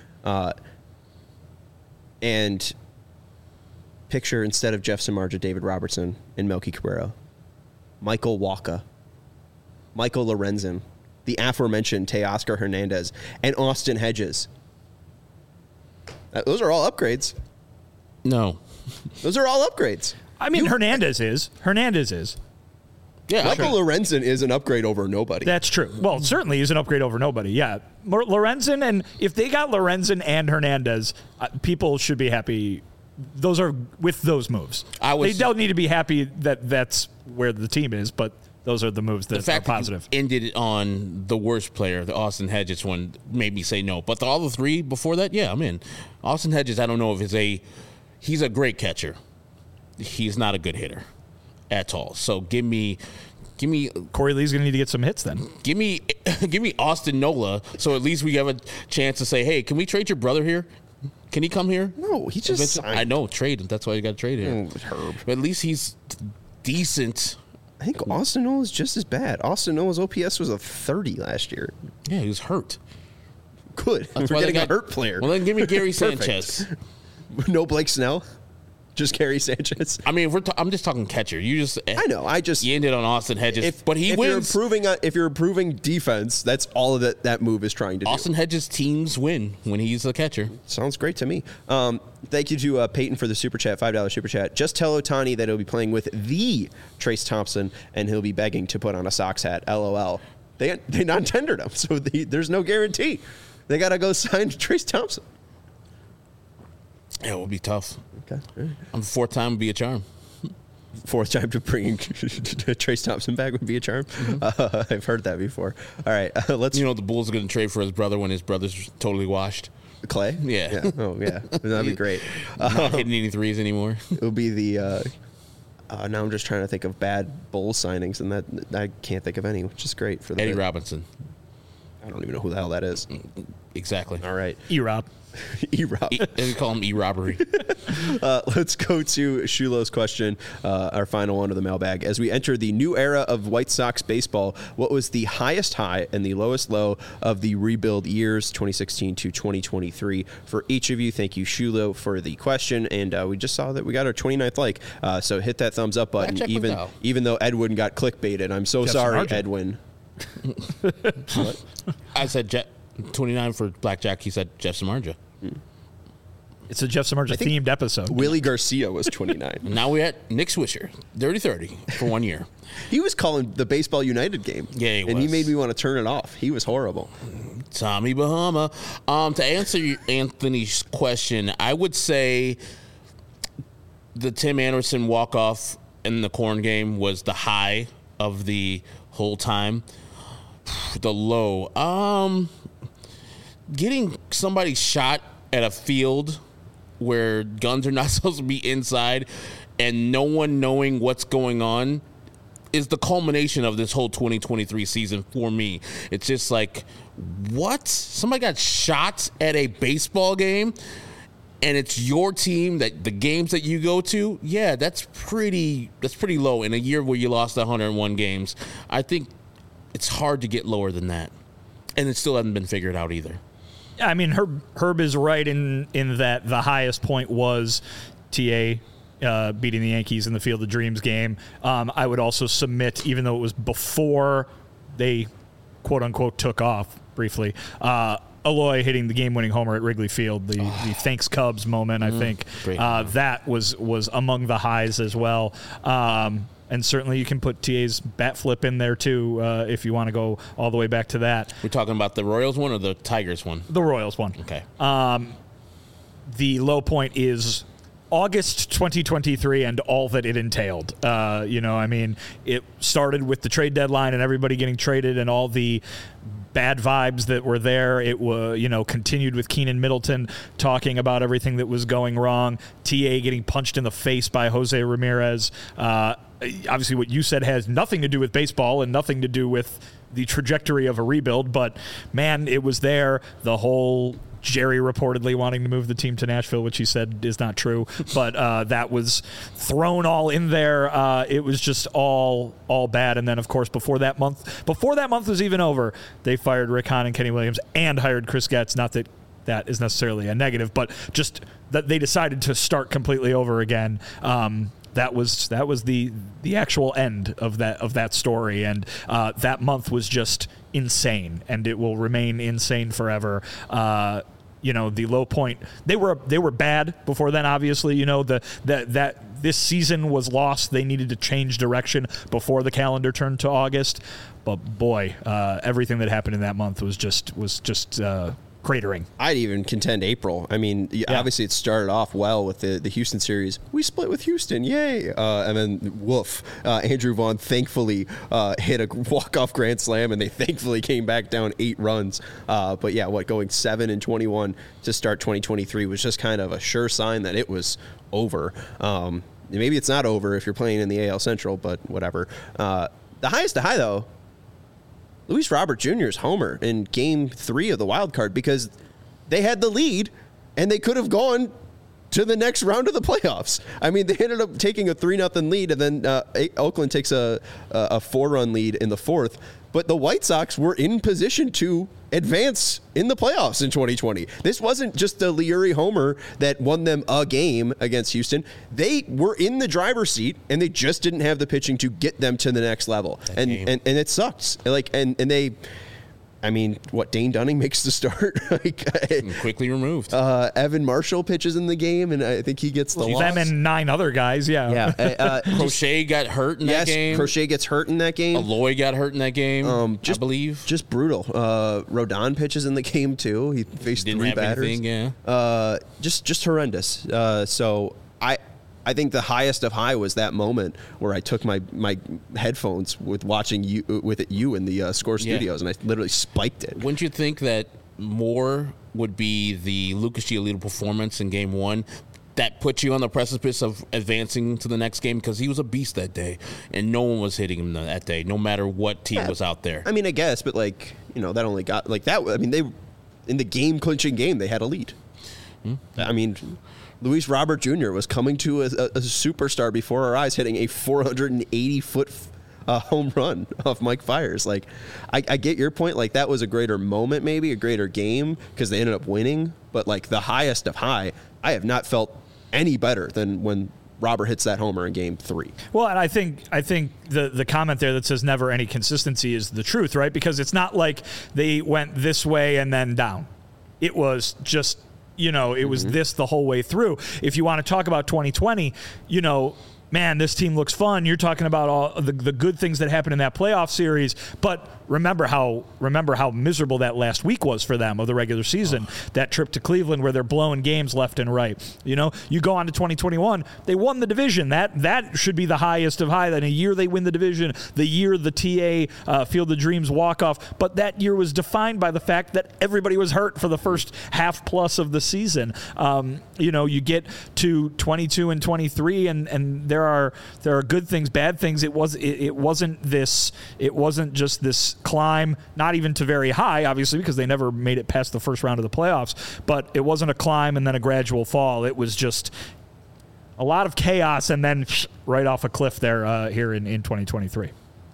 And picture, instead of Jeff Samardzija, David Robertson, and Melky Cabrera, Michael Wacha, Michael Lorenzen, the aforementioned Teoscar Hernandez, and Austin Hedges. Those are all upgrades. No. Those are all upgrades. I mean, Hernandez is. Yeah, Michael Lorenzen is an upgrade over nobody. That's true. Well, certainly he's an upgrade over nobody. Yeah. Lorenzen, and if they got Lorenzen and Hernandez, people should be happy. Those are with those moves. They don't need to be happy that that's where the team is, but those are the moves that are positive. That ended on the worst player, the Austin Hedges one, made me say no. But all the 3 before that, yeah, I'm in. Austin Hedges, I don't know if he's a great catcher. He's not a good hitter at all. So give me Corey Lee's going to need to get some hits then. Give me Austin Nola, so at least we have a chance to say, hey, can we trade your brother here? Can he come here? No, he just signed. I know, trade. That's why you got to trade him. Herb. But at least he's decent. I think Austin Nola is just as bad. Austin Nola's OPS was a 30 last year. Yeah, he was hurt. Good. We're getting a hurt player. Well, then give me Gary Sanchez. No Blake Snell? Just Gary Sanchez. I mean, I'm just talking catcher. I know. You ended on Austin Hedges, but he wins. If you're improving defense, that's all that move is trying to do. Austin Hedges teams win when he's a catcher. Sounds great to me. Thank you to Peyton for the super chat, $5 super chat. Just tell Ohtani that he'll be playing with the Trace Thompson, and he'll be begging to put on a Sox hat. LOL. They non-tendered him, so there's no guarantee. They got to go sign Trace Thompson. Yeah, it would be tough. Okay. On the 4th time would be a charm. 4th time to bring Trace Thompson back would be a charm. Mm-hmm. I've heard that before. All right, let's. The Bulls are going to trade for his brother when his brother's totally washed. Clay? Yeah. Oh, yeah. That'd be great. Not hitting any threes anymore. It'll be the. Now I'm just trying to think of bad Bulls signings, and that I can't think of any, which is great for the Eddie Robinson. I don't even know who the hell that is. Exactly. All right. E-Rob. E-Rob. They call him E-Robbery. Let's go to Shulo's question, our final one of the mailbag. As we enter the new era of White Sox baseball, what was the highest high and the lowest low of the rebuild years, 2016 to 2023? For each of you, thank you, Shulo, for the question. And we just saw that we got our 29th like. So hit that thumbs up button, even though Edwin got clickbaited. I'm so sorry, Edwin. What? I said 29 for Blackjack. He said Jeff Samardzija. It's a Jeff Samardzija themed episode. Willie Garcia was 29. Now we're at Nick Swisher, 30-30 for 1 year. He was calling the Baseball United game. Yeah, he was. And he made me want to turn it off. He was horrible. Tommy Bahama. To answer Anthony's question, I would say the Tim Anderson walk-off in the Corn game was the high of the whole time. The low. Getting somebody shot at a field where guns are not supposed to be inside and no one knowing what's going on is the culmination of this whole 2023 season for me. It's just like, what? Somebody got shot at a baseball game and it's your team, that the games that you go to? Yeah, that's pretty low in a year where you lost 101 games. I think it's hard to get lower than that. And it still hasn't been figured out either. Yeah, I mean, Herb is right in that the highest point was TA beating the Yankees in the Field of Dreams game. I would also submit, even though it was before they, quote-unquote, took off briefly, Eloy hitting the game-winning homer at Wrigley Field, the thanks Cubs moment, I think. That was among the highs as well. And certainly you can put TA's bat flip in there, too, if you want to go all the way back to that. We're talking about the Royals one or the Tigers one? The Royals one. Okay. The low point is August 2023 and all that it entailed. I mean, it started with the trade deadline and everybody getting traded and all the bad vibes that were there. It was, continued with Keenan Middleton talking about everything that was going wrong. TA getting punched in the face by Jose Ramirez. Obviously, what you said has nothing to do with baseball and nothing to do with the trajectory of a rebuild. But, man, it was there. The whole Jerry reportedly wanting to move the team to Nashville, which he said is not true. But that was thrown all in there. It was just all bad. And then, of course, before that month was even over, they fired Rick Hahn and Kenny Williams and hired Chris Getz. Not that that is necessarily a negative, but just that they decided to start completely over again. That was the actual end of that story, and that month was just insane, and it will remain insane forever. The low point, they were bad before then. Obviously, that this season was lost. They needed to change direction before the calendar turned to August. But boy, everything that happened in that month was just cratering. I'd even contend April. I mean, obviously it started off well with the Houston series. We split with Houston, yay! And then woof, Andrew Vaughn thankfully hit a walk-off grand slam, and they thankfully came back down 8 runs. But yeah, going 7-21 to start 2023 was just kind of a sure sign that it was over. Maybe it's not over if you're playing in the AL Central, but whatever. The highest to high, though, Luis Robert Jr.'s homer in Game 3 of the wild card, because they had the lead and they could have gone to the next round of the playoffs. I mean, they ended up taking a 3-0 lead, and then Oakland takes a 4-run lead in the 4th. But the White Sox were in position to advance in the playoffs in 2020. This wasn't just the Leury homer that won them a game against Houston. They were in the driver's seat, and they just didn't have the pitching to get them to the next level. And it sucks. Dane Dunning makes the start. Quickly removed. Evan Marshall pitches in the game, and I think he gets the loss. Them and 9 other guys, yeah. Crochet got hurt in that game. Yes, Crochet gets hurt in that game. Eloy got hurt in that game, I believe. Just brutal. Rodon pitches in the game, too. He faced 3 batters. Anything, yeah. Just horrendous. So I think the highest of high was that moment where I took my headphones with watching you in the Score Studios, and I literally spiked it. Wouldn't you think that more would be the Lucas Giolito performance in Game 1 that put you on the precipice of advancing to the next game? Because he was a beast that day, and no one was hitting him that day, no matter what team was out there. I mean, I guess, but that only got that. I mean, they in the game-clinching game, they had a lead. I mean, Luis Robert Jr. was coming to a superstar before our eyes, hitting a 480-foot home run off Mike Fiers. I get your point. That was a greater moment, maybe a greater game, because they ended up winning. But the highest of high, I have not felt any better than when Robert hits that homer in Game 3. Well, and I think the comment there that says never any consistency is the truth, right? Because it's not like they went this way and then down. It was just, it was this the whole way through. If you want to talk about 2020, man, this team looks fun. You're talking about all the good things that happened in that playoff series, but remember how miserable that last week was for them of the regular season. That trip to Cleveland where they're blowing games left and right. You know, you go on to 2021, they won the division. That should be the highest of high. Then a year they win the division, the year the TA Field of Dreams walk-off. But that year was defined by the fact that everybody was hurt for the first half plus of the season. You know, you get to 22 and 23, and there are good things, bad things. It wasn't just this climb, not even to very high, obviously, because they never made it past the first round of the playoffs. But it wasn't a climb and then a gradual fall. It was just a lot of chaos and then right off a cliff there here in 2023.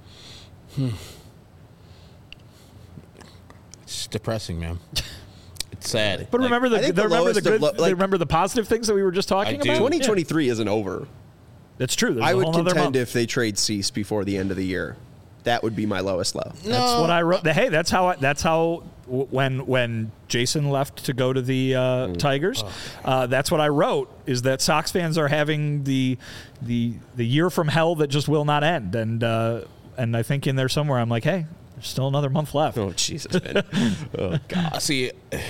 It's depressing, man. It's sad. But remember remember the positive things that we were just talking about? 2023 isn't over. That's true. There's I a would whole nother contend month. if they trade Cease before the end of the year. That would be my lowest low. That's what I wrote. Hey, that's how when Jason left to go to the Tigers, that's what I wrote, is that Sox fans are having the year from hell that just will not end. And I think in there somewhere I'm like, hey, there's still another month left. Oh, Jesus, man. Oh, God. See,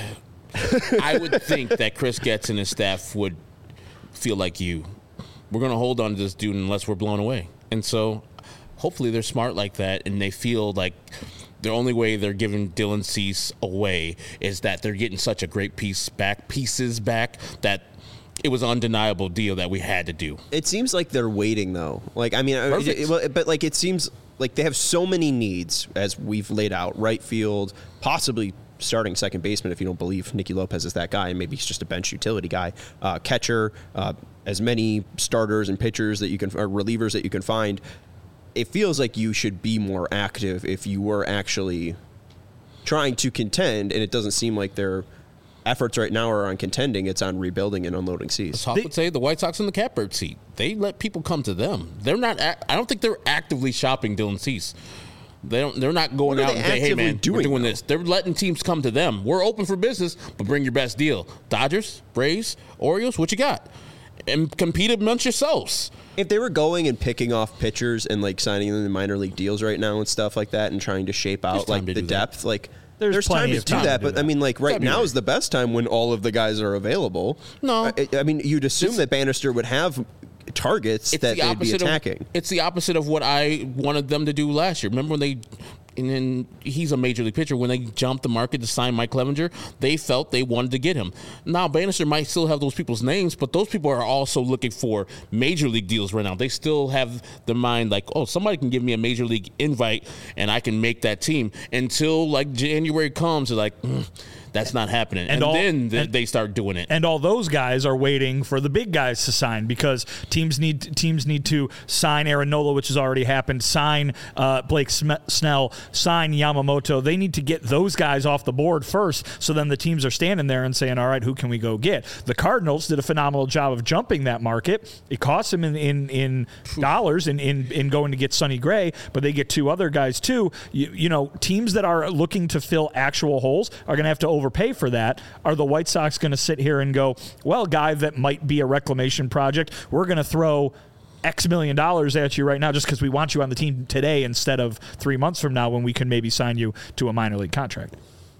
I would think that Chris Getz and his staff would feel like we're going to hold on to this dude unless we're blown away. And so hopefully they're smart like that, and they feel like the only way they're giving Dylan Cease away is that they're getting such a great pieces back that it was an undeniable deal that we had to do. It seems like they're waiting, though. Like, I mean, but like it seems like they have so many needs, as we've laid out: right field, possibly starting second baseman if you don't believe Nicky Lopez is that guy, and maybe he's just a bench utility guy. Catcher, as many starters and pitchers that you can, or relievers that you can find. It feels like you should be more active if you were actually trying to contend, and it doesn't seem like their efforts right now are on contending. It's on rebuilding and unloading Cease. Hawk would say the White Sox in the catbird seat. They let people come to them. They're not. I don't think they're actively shopping Dylan Cease. They're not going out and saying, hey, man, we're doing this. They're letting teams come to them. We're open for business, but bring your best deal. Dodgers, Braves, Orioles, what you got? And compete amongst yourselves. If they were going and picking off pitchers and like signing them in minor league deals right now and stuff like that and trying to shape out like the depth, like there's time to do that. But I mean, like right now is the best time when all of the guys are available. No, I mean, you'd assume that Bannister would have targets that they'd be attacking. It's the opposite of what I wanted them to do last year. Remember when and then he's a major league pitcher. When they jumped the market to sign Mike Clevenger, they felt they wanted to get him. Now, Bannister might still have those people's names, but those people are also looking for major league deals right now. They still have the mind like, oh, somebody can give me a major league invite and I can make that team. Until like January comes, they're like, that's not happening. And then they start doing it. And all those guys are waiting for the big guys to sign because teams need to sign Aaron Nola, which has already happened, sign Blake Snell, sign Yamamoto. They need to get those guys off the board first, so then the teams are standing there and saying, all right, who can we go get? The Cardinals did a phenomenal job of jumping that market. It cost them in dollars in going to get Sonny Gray, but they get two other guys too. You know, teams that are looking to fill actual holes are going to have to overpay for that. Are the White Sox going to sit here and go, well, guy that might be a reclamation project, we're going to throw X million dollars at you right now just because we want you on the team today instead of 3 months from now when we can maybe sign you to a minor league contract?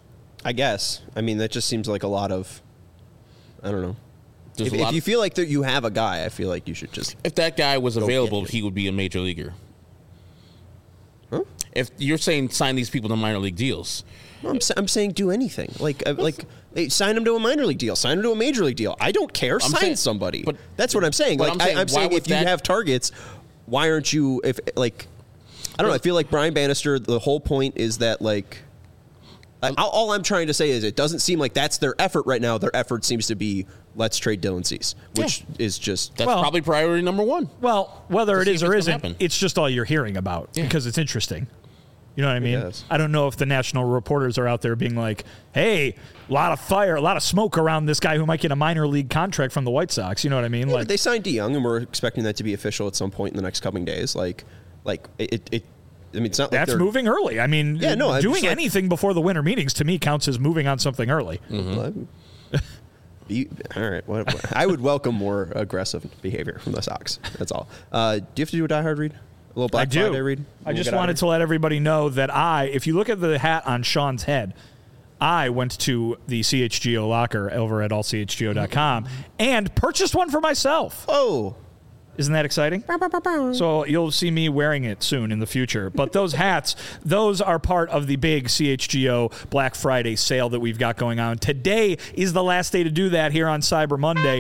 I guess. I mean, that just seems like a lot of, I don't know. If you feel like that you have a guy, I feel like you should just. If that guy was available, he would be a major leaguer. Huh? If you're saying sign these people to minor league deals. Well, I'm saying do anything. Like sign them to a minor league deal, sign them to a major league deal. I don't care. Sign somebody. But that's what I'm saying. Like I'm saying if you have targets, why aren't you? If like, I don't know. I feel like Brian Bannister. The whole point is that like, all I'm trying to say is it doesn't seem like that's their effort right now. Their effort seems to be let's trade Dylan Cease, which is just that's probably priority number one. Well, whether it is or isn't, it's just all you're hearing about because it's interesting. You know what I mean? I don't know if the national reporters are out there being like, hey, a lot of fire, a lot of smoke around this guy who might get a minor league contract from the White Sox. You know what I mean? Yeah, like they signed DeYoung, and we're expecting that to be official at some point in the next coming days. Like it I mean, it's not that's like moving early. I mean, doing anything before the winter meetings to me counts as moving on something early. Mm-hmm. All right. What, I would welcome more aggressive behavior from the Sox. That's all. Do you have to do a Die Hard read? A little Black Friday read? I just wanted to let everybody know that if you look at the hat on Sean's head, I went to the CHGO locker over at allchgo.com and purchased one for myself. Oh. Isn't that exciting? So you'll see me wearing it soon in the future. But those hats, those are part of the big CHGO Black Friday sale that we've got going on. Today is the last day to do that here on Cyber Monday.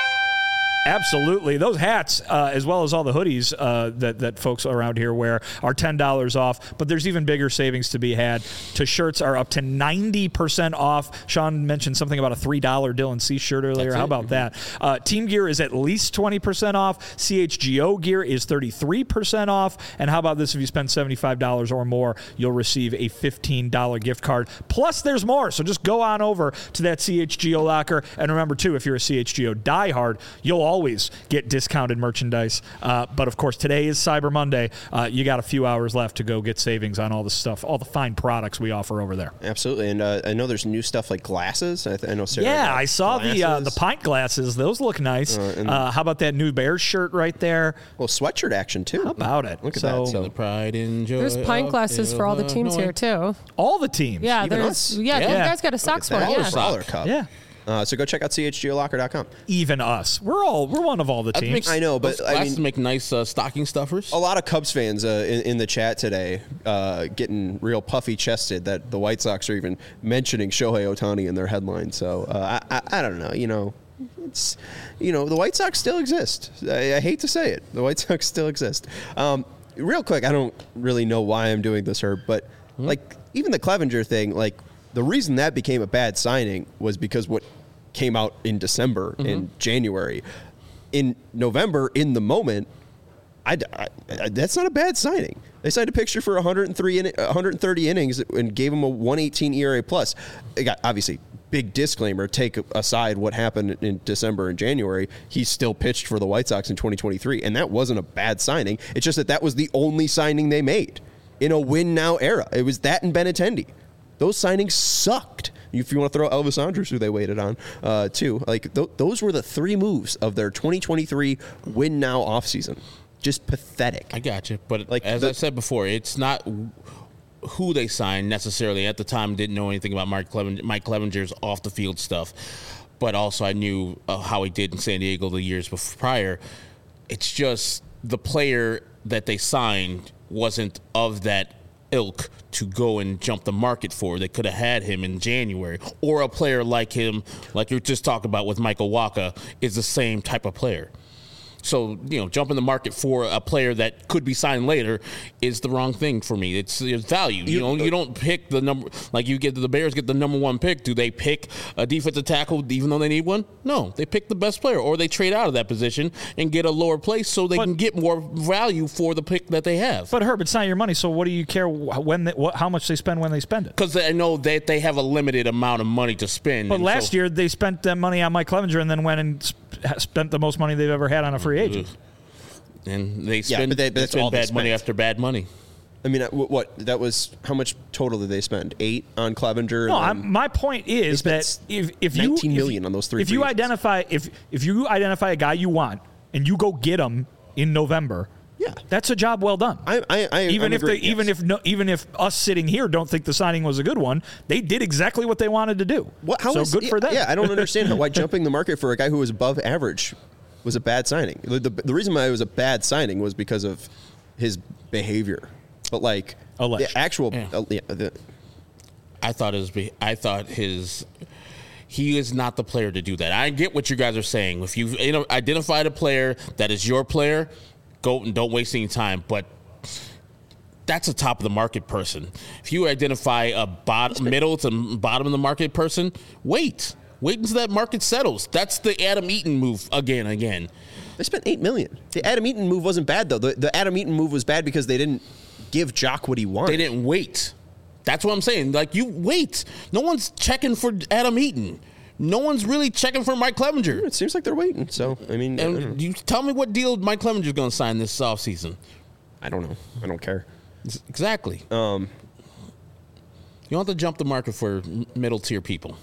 Absolutely. Those hats, as well as all the hoodies that folks around here wear, are $10 off. But there's even bigger savings to be had. Shirts are up to 90% off. Sean mentioned something about a $3 Dylan C shirt earlier. How about that? Team gear is at least 20% off. CHGO gear is 33% off. And how about this? If you spend $75 or more, you'll receive a $15 gift card. Plus, there's more. So just go on over to that CHGO locker. And remember, too, if you're a CHGO diehard, you'll always get discounted merchandise. But of course, today is Cyber Monday. You got a few hours left to go get savings on all the stuff, all the fine products we offer over there. Absolutely. And I know there's new stuff like glasses. I know Sarah. Yeah, I saw the pint glasses. Those look nice. How about that new Bears shirt right there? Well, sweatshirt action too. How about it? Look at that. So the pride and joy. There's pint glasses for all the teams here too. All the teams. Yeah, Even there's us? you guys got a Sox one. Yeah. Dollar cup. Yeah. So go check out chgolocker.com. Even us. We're one of all the teams. I know, but those glasses make nice stocking stuffers. A lot of Cubs fans in the chat today getting real puffy chested that the White Sox are even mentioning Shohei Ohtani in their headline. So I don't know. It's the White Sox still exist. I hate to say it, the White Sox still exist. Real quick, I don't really know why I'm doing this, Herb, but like even the Clevenger thing, like the reason that became a bad signing was because what came out in December and January. In November, in the moment, that's not a bad signing. They signed a picture for 130 innings and gave him a 118 ERA plus. It got, obviously, big disclaimer, take aside what happened in December and January, he still pitched for the White Sox in 2023, and that wasn't a bad signing. It's just that was the only signing they made in a win-now era. It was that and Benintendi. Those signings sucked. If you want to throw Elvis Andrus, who they waited on, too. Like, those were the three moves of their 2023 win-now offseason. Just pathetic. I got you. But like I said before, it's not who they signed necessarily. At the time, didn't know anything about Mike Clevenger's off-the-field stuff. But also I knew how he did in San Diego the years prior. It's just the player that they signed wasn't of that ilk to go and jump the market for. They could have had him in January. Or a player like him, like you just talked about with Michael Wacha, is the same type of player. So, jumping the market for a player that could be signed later is the wrong thing for me. It's value. You don't pick the number, like the Bears get the number one pick. Do they pick a defensive tackle even though they need one? No, they pick the best player, or they trade out of that position and get a lower place so they can get more value for the pick that they have. But Herb, it's not your money, so what do you care how much they spend when they spend it? Because I know that they have a limited amount of money to spend. But last year they spent that money on Mike Clevenger and then went and spent the most money they've ever had on a free agent. And they spend, they spend bad money after bad money. I mean, that was how much total did they spend? 8 on Clevenger. No, my point is that if you $19 million on those three. If you identify a guy you want and you go get him in November, yeah, that's a job well done. Even if us sitting here don't think the signing was a good one, they did exactly what they wanted to do. Good for them. Yeah, I don't understand why jumping the market for a guy who was above average was a bad signing. The reason why it was a bad signing was because of his behavior. But the actual, I thought he is not the player to do that. I get what you guys are saying. If you've identified a player that is your player, go and don't waste any time. But that's a top of the market person. If you identify a middle to bottom of the market person, wait until that market settles. That's the Adam Eaton move again. They spent $8 million. The Adam Eaton move wasn't bad though. The Adam Eaton move was bad because they didn't give Jock what he wanted. They didn't wait. That's what I'm saying. Like, you wait. No one's checking for Adam Eaton. No one's really checking for Mike Clevenger. It seems like they're waiting. So, I mean, and you tell me what deal Mike Clevenger's going to sign this offseason. I don't know. I don't care. Exactly. You don't have to jump the market for middle tier people.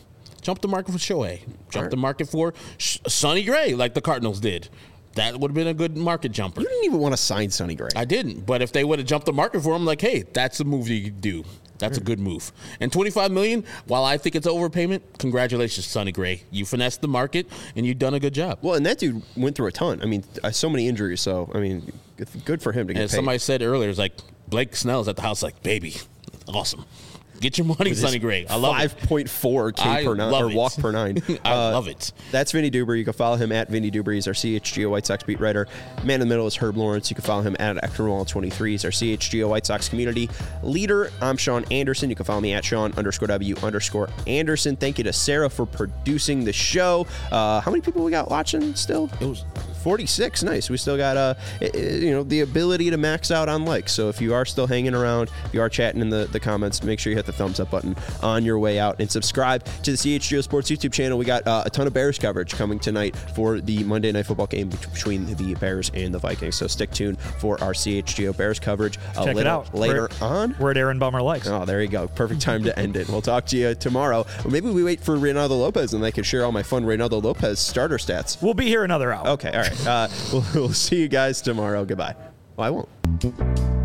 Jump the market for Shohei. Jump the market for Sonny Gray, like the Cardinals did. That would have been a good market jumper. You didn't even want to sign Sonny Gray. I didn't, but if they would have jumped the market for him, like, hey, that's a move you do. That's a good move. And $25 million, while I think it's overpayment, congratulations, Sonny Gray. You finessed the market, and you've done a good job. Well, and that dude went through a ton. I mean, so many injuries. So, I mean, good for him to get and paid. Somebody said earlier, it's like, Blake Snell's at the house like, baby, awesome. Get your money, Sonny Gray. I love 5.4 K per 9 or walk per 9. I love it. That's Vinny Duber. You can follow him at Vinny Duber. He's our CHGO White Sox beat writer. Man in the middle is Herb Lawrence. You can follow him at Ectorwall23. He's our CHGO White Sox community leader. I'm Sean Anderson. You can follow me at Sean_W_Anderson. Thank you to Sarah for producing the show. How many people we got watching still? It was 46. Nice. We still got the ability to max out on likes. So if you are still hanging around, if you are chatting in the comments, make sure you hit the thumbs up button on your way out and subscribe to the CHGO Sports YouTube channel. We got a ton of Bears coverage coming tonight for the Monday Night Football game between the Bears and the Vikings. So stick tuned for our CHGO Bears coverage Check it out. later on. We're at Aaron Bummer Likes. Oh, there you go. Perfect time to end it. We'll talk to you tomorrow. Or maybe we wait for Reynaldo Lopez and I can share all my fun Reynaldo Lopez starter stats. We'll be here another hour. Okay, all right. We'll see you guys tomorrow. Goodbye. Well, I won't.